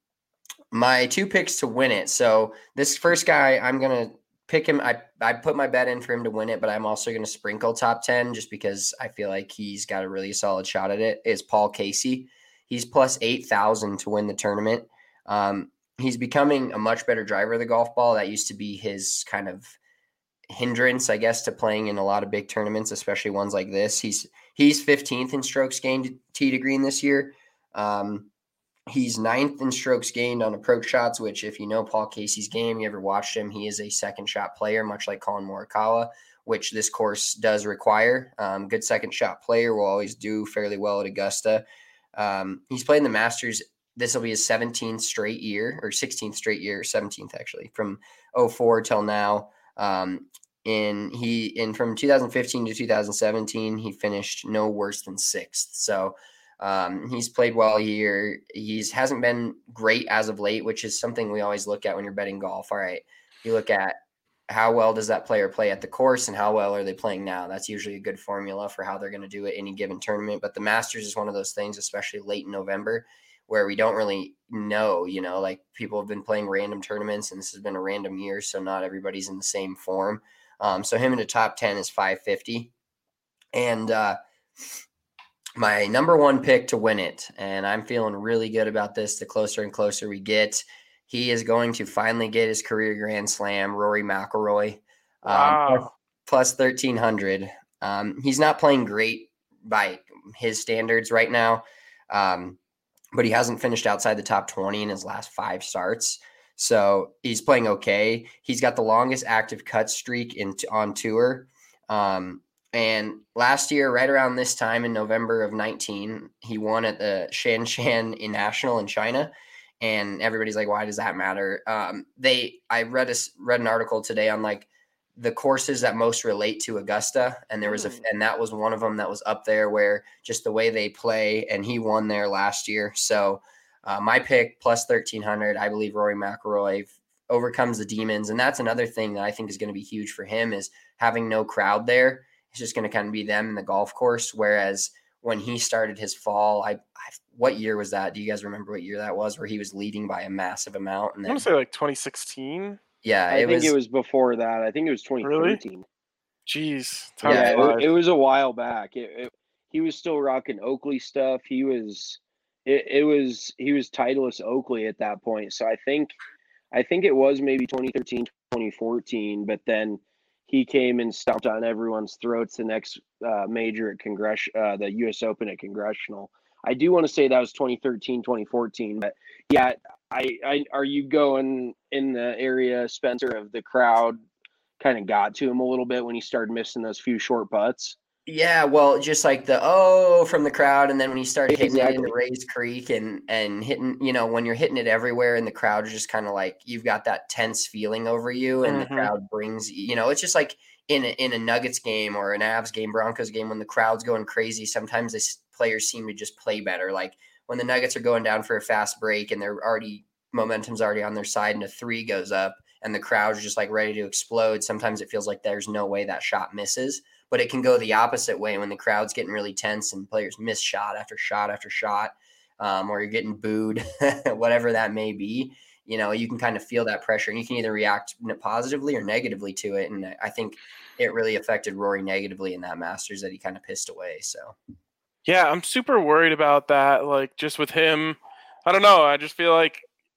my two picks to win it. So this first guy, I'm going to pick him. I, I put my bet in for him to win it, but I'm also going to sprinkle top ten just because I feel like he's got a really solid shot at it, is Paul Casey. He's plus eight thousand to win the tournament. Um, he's becoming a much better driver of the golf ball. That used to be his kind of hindrance, I guess, to playing in a lot of big tournaments, especially ones like this. He's he's fifteenth in strokes gained tee to green this year. Um, he's ninth in strokes gained on approach shots, which if you know Paul Casey's game, you ever watched him, he is a second shot player, much like Colin Morikawa, which this course does require. Um, good second shot player will always do fairly well at Augusta. Um, he's played in the Masters. This will be his seventeenth straight year, or sixteenth straight year, seventeenth actually, from oh four till now. Um, in he in from two thousand fifteen to two thousand seventeen, he finished no worse than sixth. So um, he's played well here. He's hasn't been great as of late, which is something we always look at when you're betting golf. All right, you look at how well does that player play at the course and how well are they playing now? That's usually a good formula for how they're going to do it any given tournament. But the Masters is one of those things, especially late in November, where we don't really know, you know, like people have been playing random tournaments and this has been a random year. So not everybody's in the same form. Um, so him in the top ten is five fifty. And uh, my number one pick to win it, and I'm feeling really good about this the closer and closer we get, he is going to finally get his career Grand Slam, Rory McIlroy, um, Wow. plus, plus thirteen hundred. Um, he's not playing great by his standards right now, um, but he hasn't finished outside the top twenty in his last five starts. So he's playing okay. He's got the longest active cut streak in on tour. Um, and last year, right around this time in November of nineteen, he won at the Shanshan National in China. And everybody's like, why does that matter? Um, they, I read a, read an article today on like the courses that most relate to Augusta. And there was a, and that was one of them that was up there where just the way they play, and he won there last year. So uh, my pick plus thirteen hundred, I believe Rory McIlroy overcomes the demons. And that's another thing that I think is going to be huge for him is having no crowd there. It's just going to kind of be them in the golf course. Whereas when he started his fall, I, I what year was that? Do you guys remember what year that was where he was leading by a massive amount? And I then, want to say like twenty sixteen. yeah, I it think was, it was before that. I think it was twenty thirteen. Jeez. Yeah, Yeah, Yeah. it, it was a while back. It, it, he was still rocking Oakley stuff. He was, it, it was he was Titleist Oakley at that point. So I think, I think it was maybe twenty thirteen, twenty fourteen. But then he came and stomped on everyone's throats the next uh, major at Congress, uh, the U S Open at Congressional. I do want to say that was twenty thirteen, twenty fourteen. But yeah, I, I are you going in the area, Spencer, of the crowd kind of got to him a little bit when he started missing those few short putts? yeah, well, just like the oh from the crowd, and then when he started hitting Exactly. it into Rays Creek and and hitting, you know, when you're hitting it everywhere, and the crowd is just kind of like you've got that tense feeling over you, and Mhm. the crowd brings, you know, it's just like in a, in a Nuggets game or an Avs game, Broncos game, when the crowd's going crazy. Sometimes the players seem to just play better. Like when the Nuggets are going down for a fast break and they're already momentum's already on their side, and a three goes up, and the crowd's just like ready to explode. Sometimes it feels like there's no way that shot misses. But it can go the opposite way when the crowd's getting really tense and players miss shot after shot after shot, um, or you're getting booed, whatever that may be. You know, you can kind of feel that pressure, and you can either react positively or negatively to it. And I think it really affected Rory negatively in that Masters that he kind of pissed away. So, Yeah, I'm super worried about that. Like, just with him, I don't know. I just feel like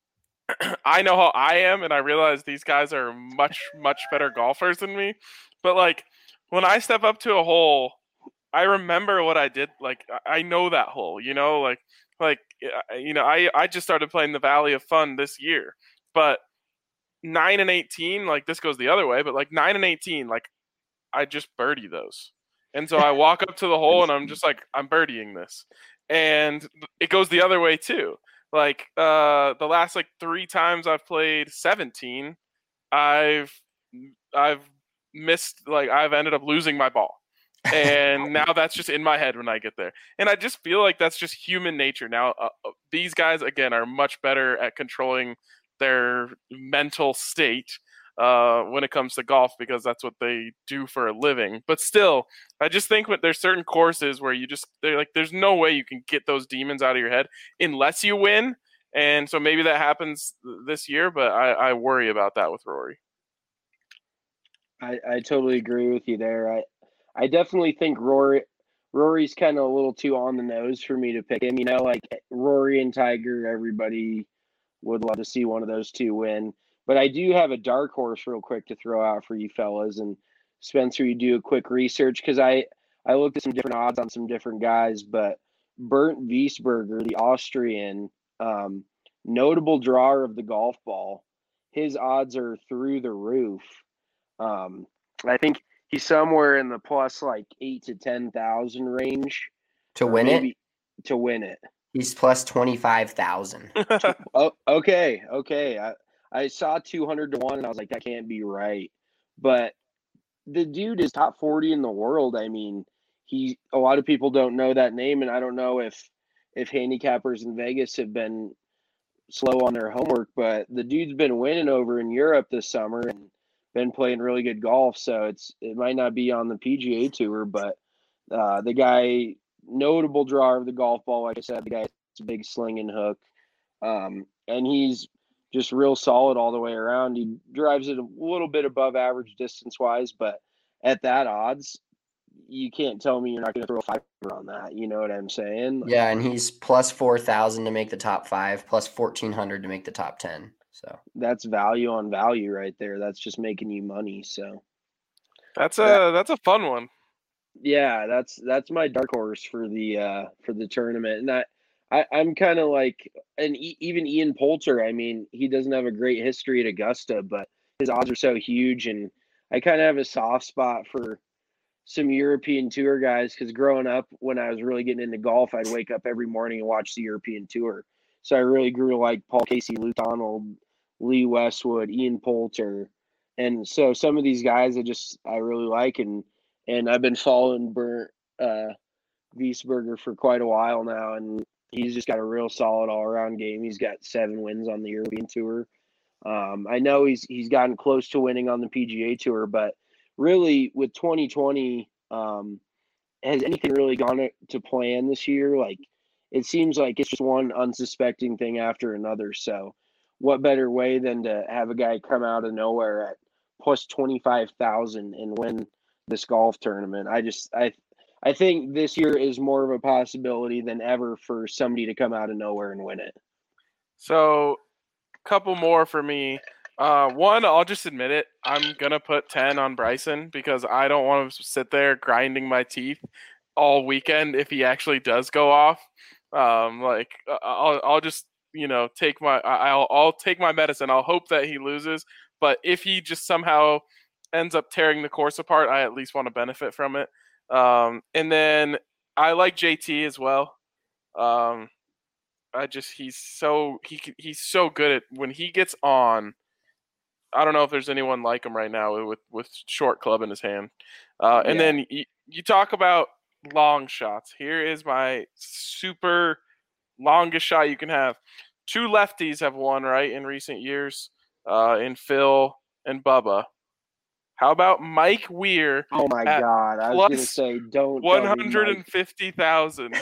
I know how I am, and I realize these guys are much, much better golfers than me. But, like, when I step up to a hole, I remember what I did. Like, I know that hole, you know, like, like, you know, I, I just started playing the Valley of Fun this year, but nine and eighteen, like this goes the other way, but like nine and eighteen, like I just birdie those. And so I walk up to the hole and I'm just like, I'm birdieing this. And it goes the other way too. Like, uh, the last like three times I've played seventeen, I've, I've, missed, like I've ended up losing my ball, and now that's just in my head when I get there, and I just feel like that's just human nature. Now uh, these guys again are much better at controlling their mental state uh, when it comes to golf, because that's what they do for a living. But still, I just think when there's certain courses where you just they're like there's no way you can get those demons out of your head unless you win, and so maybe that happens this year, but I, I worry about that with Rory. I, I totally agree with you there. I I definitely think Rory Rory's kind of a little too on the nose for me to pick him. You know, like Rory and Tiger, everybody would love to see one of those two win. But I do have a dark horse real quick to throw out for you fellas. And Spencer, you do a quick research because I, I looked at some different odds on some different guys, but Bernd Wiesberger, the Austrian, um, notable drawer of the golf ball, his odds are through the roof. Um, I think he's somewhere in the plus like eight to ten thousand range to win it. To win it, he's plus twenty five thousand. Oh, okay, okay. I I saw two hundred to one, and I was like, that can't be right. But the dude is top forty in the world. I mean, he. A lot of people don't know that name, and I don't know if if handicappers in Vegas have been slow on their homework, but the dude's been winning over in Europe this summer and been playing really good golf. So it's it might not be on the P G A Tour, but uh, the guy, notable drawer of the golf ball, like I said, the guy's a big slinging hook, um, and he's just real solid all the way around. He drives it a little bit above average distance wise, but at that odds, you can't tell me you're not going to throw a fiver on that. You know what I'm saying? Like, Yeah, and he's plus four thousand to make the top five, plus fourteen hundred to make the top ten. So that's value on value right there. That's just making you money. So That's a that's a fun one. yeah, that's that's my dark horse for the uh, for the tournament, and I, I I'm kind of like, and e- even Ian Poulter. I mean, he doesn't have a great history at Augusta, but his odds are so huge, and I kind of have a soft spot for some European Tour guys because growing up, when I was really getting into golf, I'd wake up every morning and watch the European Tour. So I really grew to like Paul Casey, Luke Donald, Lee Westwood, Ian Poulter, and so some of these guys I just I really like, and and I've been following Bert uh, Wiesberger for quite a while now, and he's just got a real solid all around game. He's got seven wins on the European Tour. Um, I know he's he's gotten close to winning on the P G A Tour, but really with twenty twenty, um, has anything really gone to, to plan this year? Like, it seems like it's just one unsuspecting thing after another. So what better way than to have a guy come out of nowhere at plus twenty-five thousand and win this golf tournament? I just, I, I think this year is more of a possibility than ever for somebody to come out of nowhere and win it. So, couple more for me. Uh, one, I'll just admit it. I'm gonna put ten on Bryson because I don't want to sit there grinding my teeth all weekend if he actually does go off. Um, like I'll, I'll just, you know, take my, I'll, I'll take my medicine. I'll hope that he loses. But if he just somehow ends up tearing the course apart, I at least want to benefit from it. Um, and then I like J T as well. Um, I just he's so he he's so good at when he gets on. I don't know if there's anyone like him right now with with short club in his hand. Uh, and Yeah. then you, you talk about long shots. Here is my super longest shot you can have. Two lefties have won right in recent years, uh, in Phil and Bubba. How about Mike Weir? Oh my at God. I was going to plus say, don't. one tell me hundred Mike. fifty thousand.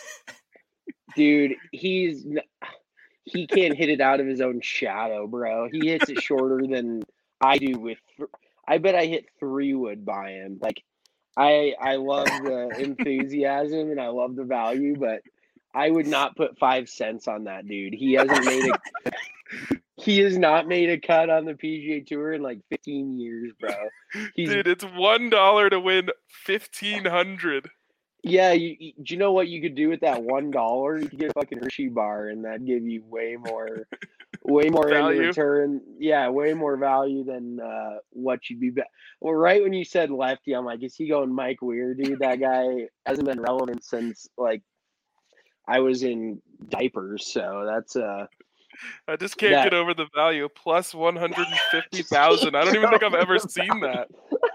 Dude, he's he can't hit it out of his own shadow, bro. He hits it shorter than I do with. I bet I hit three wood by him. Like, I I love the enthusiasm and I love the value, but I would not put five cents on that dude. He hasn't made a he has not made a cut on the P G A Tour in like fifteen years, bro. He's, Dude, it's one dollar to win fifteen hundred. Yeah, you, you, do you know what you could do with that one dollar? You could get a fucking Hershey bar, and that'd give you way more, way more in Value? return. Yeah, way more value than uh, what you'd be. Be- well, right when you said lefty, I'm like, is he going Mike Weir, dude? That guy hasn't been relevant since like I was in diapers. So that's uh. I just can't that- get over the value. Plus one hundred fifty thousand. I don't even think I've ever seen that.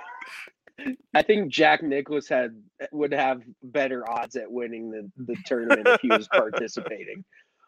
I think Jack Nicklaus had would have better odds at winning the, the tournament if he was participating.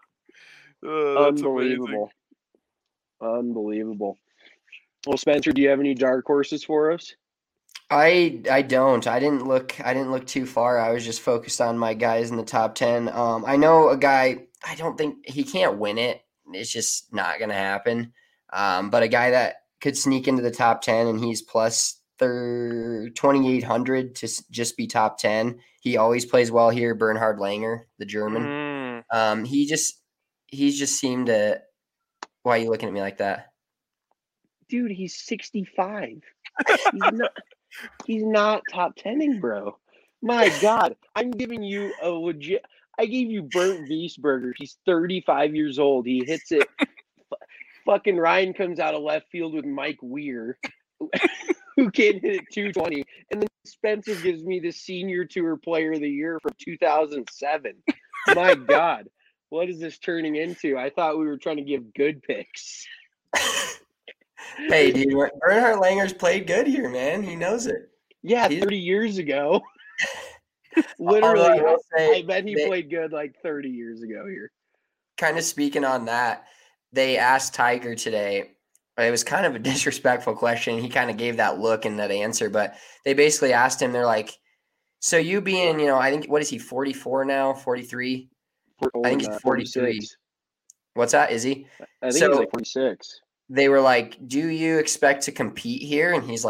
Uh, that's Unbelievable. Unbelievable. Well, Spencer, do you have any dark horses for us? I I don't. I didn't look I didn't look too far. I was just focused on my guys in the top ten. Um, I know a guy, I don't think he can't win it. It's just not gonna happen. Um, but a guy that could sneak into the top ten and he's plus twenty-eight hundred to s- just be top ten. He always plays well here. Bernhard Langer, the German. Mm. Um, he just he's just seemed to. Why are you looking at me like that? Dude, he's sixty-five. He's not he's not top tenning, bro. My God. I'm giving you a legit I gave you Bernd Wiesberger. He's thirty-five years old. He hits it. F- fucking Ryan comes out of left field with Mike Weir, who can hit it two twenty. And then Spencer gives me the Senior Tour Player of the Year from two thousand seven. My God. What is this turning into? I thought we were trying to give good picks. Hey, dude, Bernhard Langer's played good here, man. He knows it. Yeah, He's- thirty years ago. Although I Literally, will say I bet he they- played good like thirty years ago here. Kind of speaking on that, they asked Tiger today. It was kind of a disrespectful question. He kind of gave that look and that answer, but they basically asked him, they're like, so you being, you know, I think, what is he, forty-four now, forty-three? I think he's forty-three. What's that? Is he? I think So- he's like forty-six. They were like, do you expect to compete here? And he's like,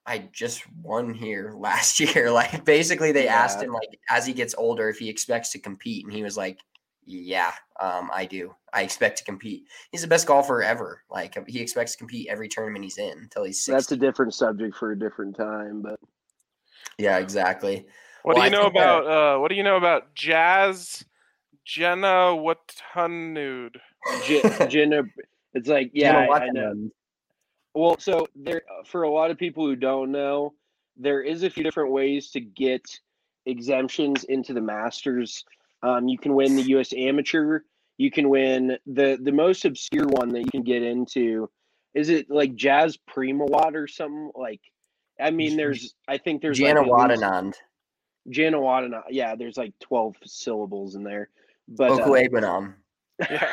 I just won here last year. Like basically they Yeah. asked him like as he gets older if he expects to compete, and he was like, yeah, um, I do. I expect to compete. He's the best golfer ever. Like he expects to compete every tournament he's in until he's sixty. That's a different subject for a different time, but Yeah, exactly. What Well, do you I know think that- about uh, what do you know about Jazz Jenna Watanud? J- Jenna, it's like yeah, Jenna I, I know. Watanabe. Well, so there for a lot of people who don't know, there is a few different ways to get exemptions into the Masters. Um, you can win the U S Amateur. You can win the the most obscure one that you can get into. Is it like Jazz Primawat or something? Like, I mean, there's I think there's Jana like at least- Wadanand. Jana Wadanand. Yeah, there's like twelve syllables in there. But uh, Okuebanam. Yeah.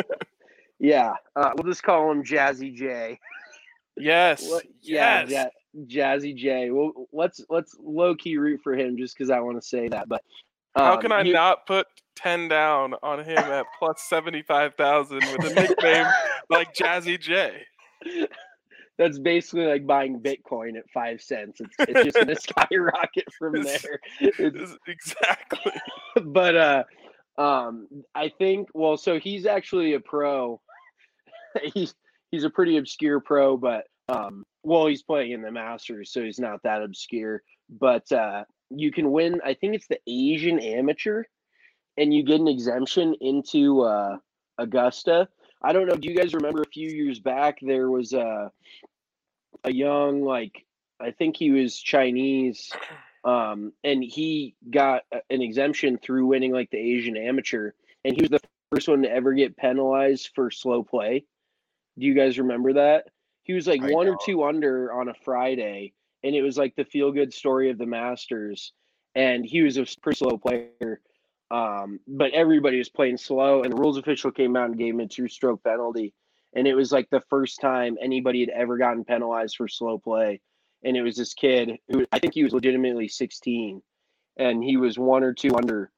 yeah, uh, we'll just call him Jazzy J. yes. What- yeah, yes. Ja- Jazzy J. Well, let's let's low key root for him just because I want to say that. But How um, can I you- not put ten down on him at plus seventy five thousand with a nickname like Jazzy J? That's basically like buying Bitcoin at five cents. It's it's just gonna skyrocket from It's- there. It's, Exactly. but uh, um, I think well, so he's actually a pro. he's he's a pretty obscure pro, but um, well, he's playing in the Masters, so he's not that obscure. But uh, you can win. I think it's the Asian Amateur, and you get an exemption into uh, Augusta. I don't know. Do you guys remember a few years back there was a a young like I think he was Chinese, um, and he got a- an exemption through winning like the Asian Amateur, and he was the first one to ever get penalized for slow play. Do you guys remember that? He was like I one or don't. two under on a Friday, and it was like the feel good story of the Masters. And he was a pretty slow player, um, but everybody was playing slow. And the rules official came out and gave him a two stroke penalty. And it was like the first time anybody had ever gotten penalized for slow play. And it was this kid who I think he was legitimately sixteen, and he was one or two under,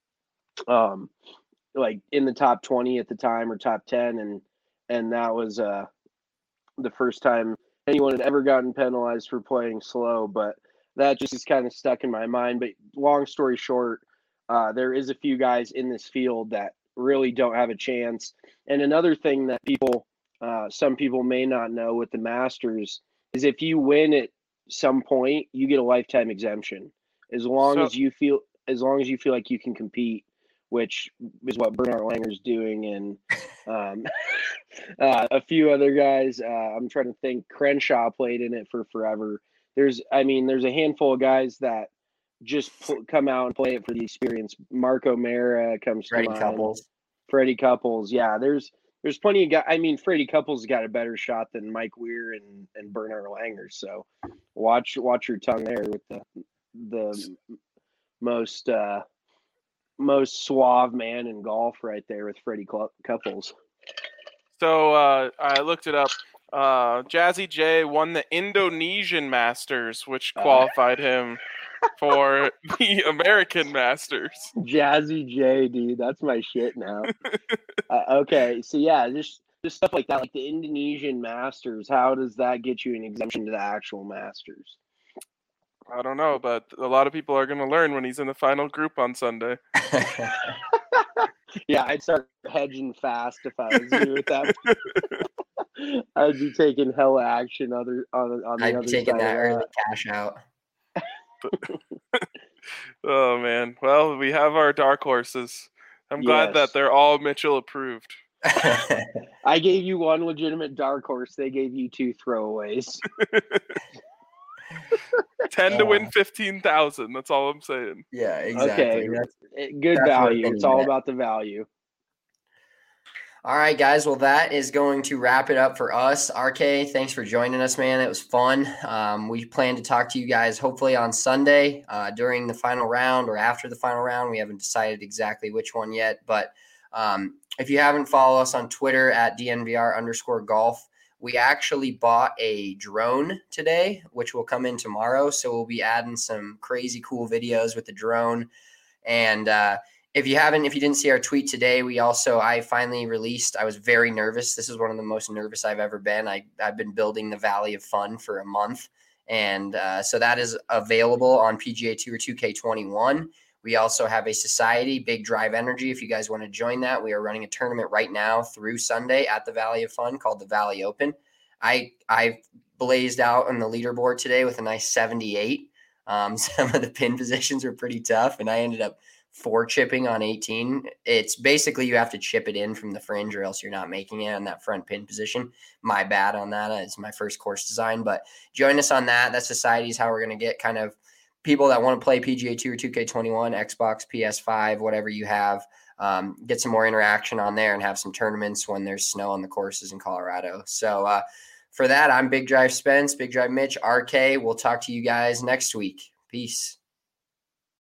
um, like in the top twenty at the time or top ten, and and that was uh the first time anyone had ever gotten penalized for playing slow. But that just is kind of stuck in my mind. But long story short, uh, there is a few guys in this field that really don't have a chance. And another thing that people, uh, some people may not know with the Masters is if you win at some point, you get a lifetime exemption as long So- as you feel as long as you feel like you can compete, which is what Bernard Langer's doing, and um, uh, a few other guys. Uh, I'm trying to think. Crenshaw played in it for forever. There's, I mean, there's a handful of guys that just pl- come out and play it for the experience. Marco Mera comes Freddie to mind. Couples. Freddie Couples, yeah. There's there's plenty of guys. I mean, Freddie Couples got a better shot than Mike Weir and and Bernard Langer. So watch watch your tongue there with the the most uh, most suave man in golf right there with Freddie Cl- Couples. So uh, I looked it up. Uh, Jazzy J won the Indonesian Masters, which Uh. qualified him for the American Masters. Jazzy J, dude, that's my shit now. uh, okay, so yeah, just just stuff like that, like the Indonesian Masters. How does that get you an exemption to the actual Masters? I don't know, but a lot of people are going to learn when he's in the final group on Sunday. Yeah, I'd start hedging fast if I was you with that. I'd be taking hella action other on, on the I'd other be taking side that of early cash out. Oh, man. Well, we have our dark horses. I'm glad Yes. that they're all Mitchell approved. I gave you one legitimate dark horse. They gave you two throwaways. ten to win Uh. fifteen thousand. That's all I'm saying. Yeah, exactly. Okay. That's- Eh, Good That's value. worth It's it, all yeah. about the value. All right, guys. Well, that is going to wrap it up for us. R K, thanks for joining us, man. It was fun. Um, we plan to talk to you guys hopefully on Sunday uh, during the final round or after the final round. We haven't decided exactly which one yet. But um, if you haven't followed us on Twitter at D N V R underscore golf, we actually bought a drone today, which will come in tomorrow. So we'll be adding some crazy cool videos with the drone. And uh, if you haven't, if you didn't see our tweet today, we also, I finally released, I was very nervous. This is one of the most nervous I've ever been. I, I've been building the Valley of Fun for a month, And uh, so that is available on P G A Tour two K twenty-one. We also have a society, Big Drive Energy. If you guys want to join that, we are running a tournament right now through Sunday at the Valley of Fun called the Valley Open. I I blazed out on the leaderboard today with a nice seventy-eight. Um, some of the pin positions were pretty tough, and I ended up four chipping on eighteen. It's basically you have to chip it in from the fringe or else you're not making it on that front pin position. My bad on that. It's my first course design, but join us on that. That society is how we're going to get kind of people that want to play P G A Tour two K twenty-one, Xbox, P S five, whatever you have, um, get some more interaction on there and have some tournaments when there's snow on the courses in Colorado. So uh, for that, I'm Big Drive Spence, Big Drive Mitch, R K. We'll talk to you guys next week. Peace.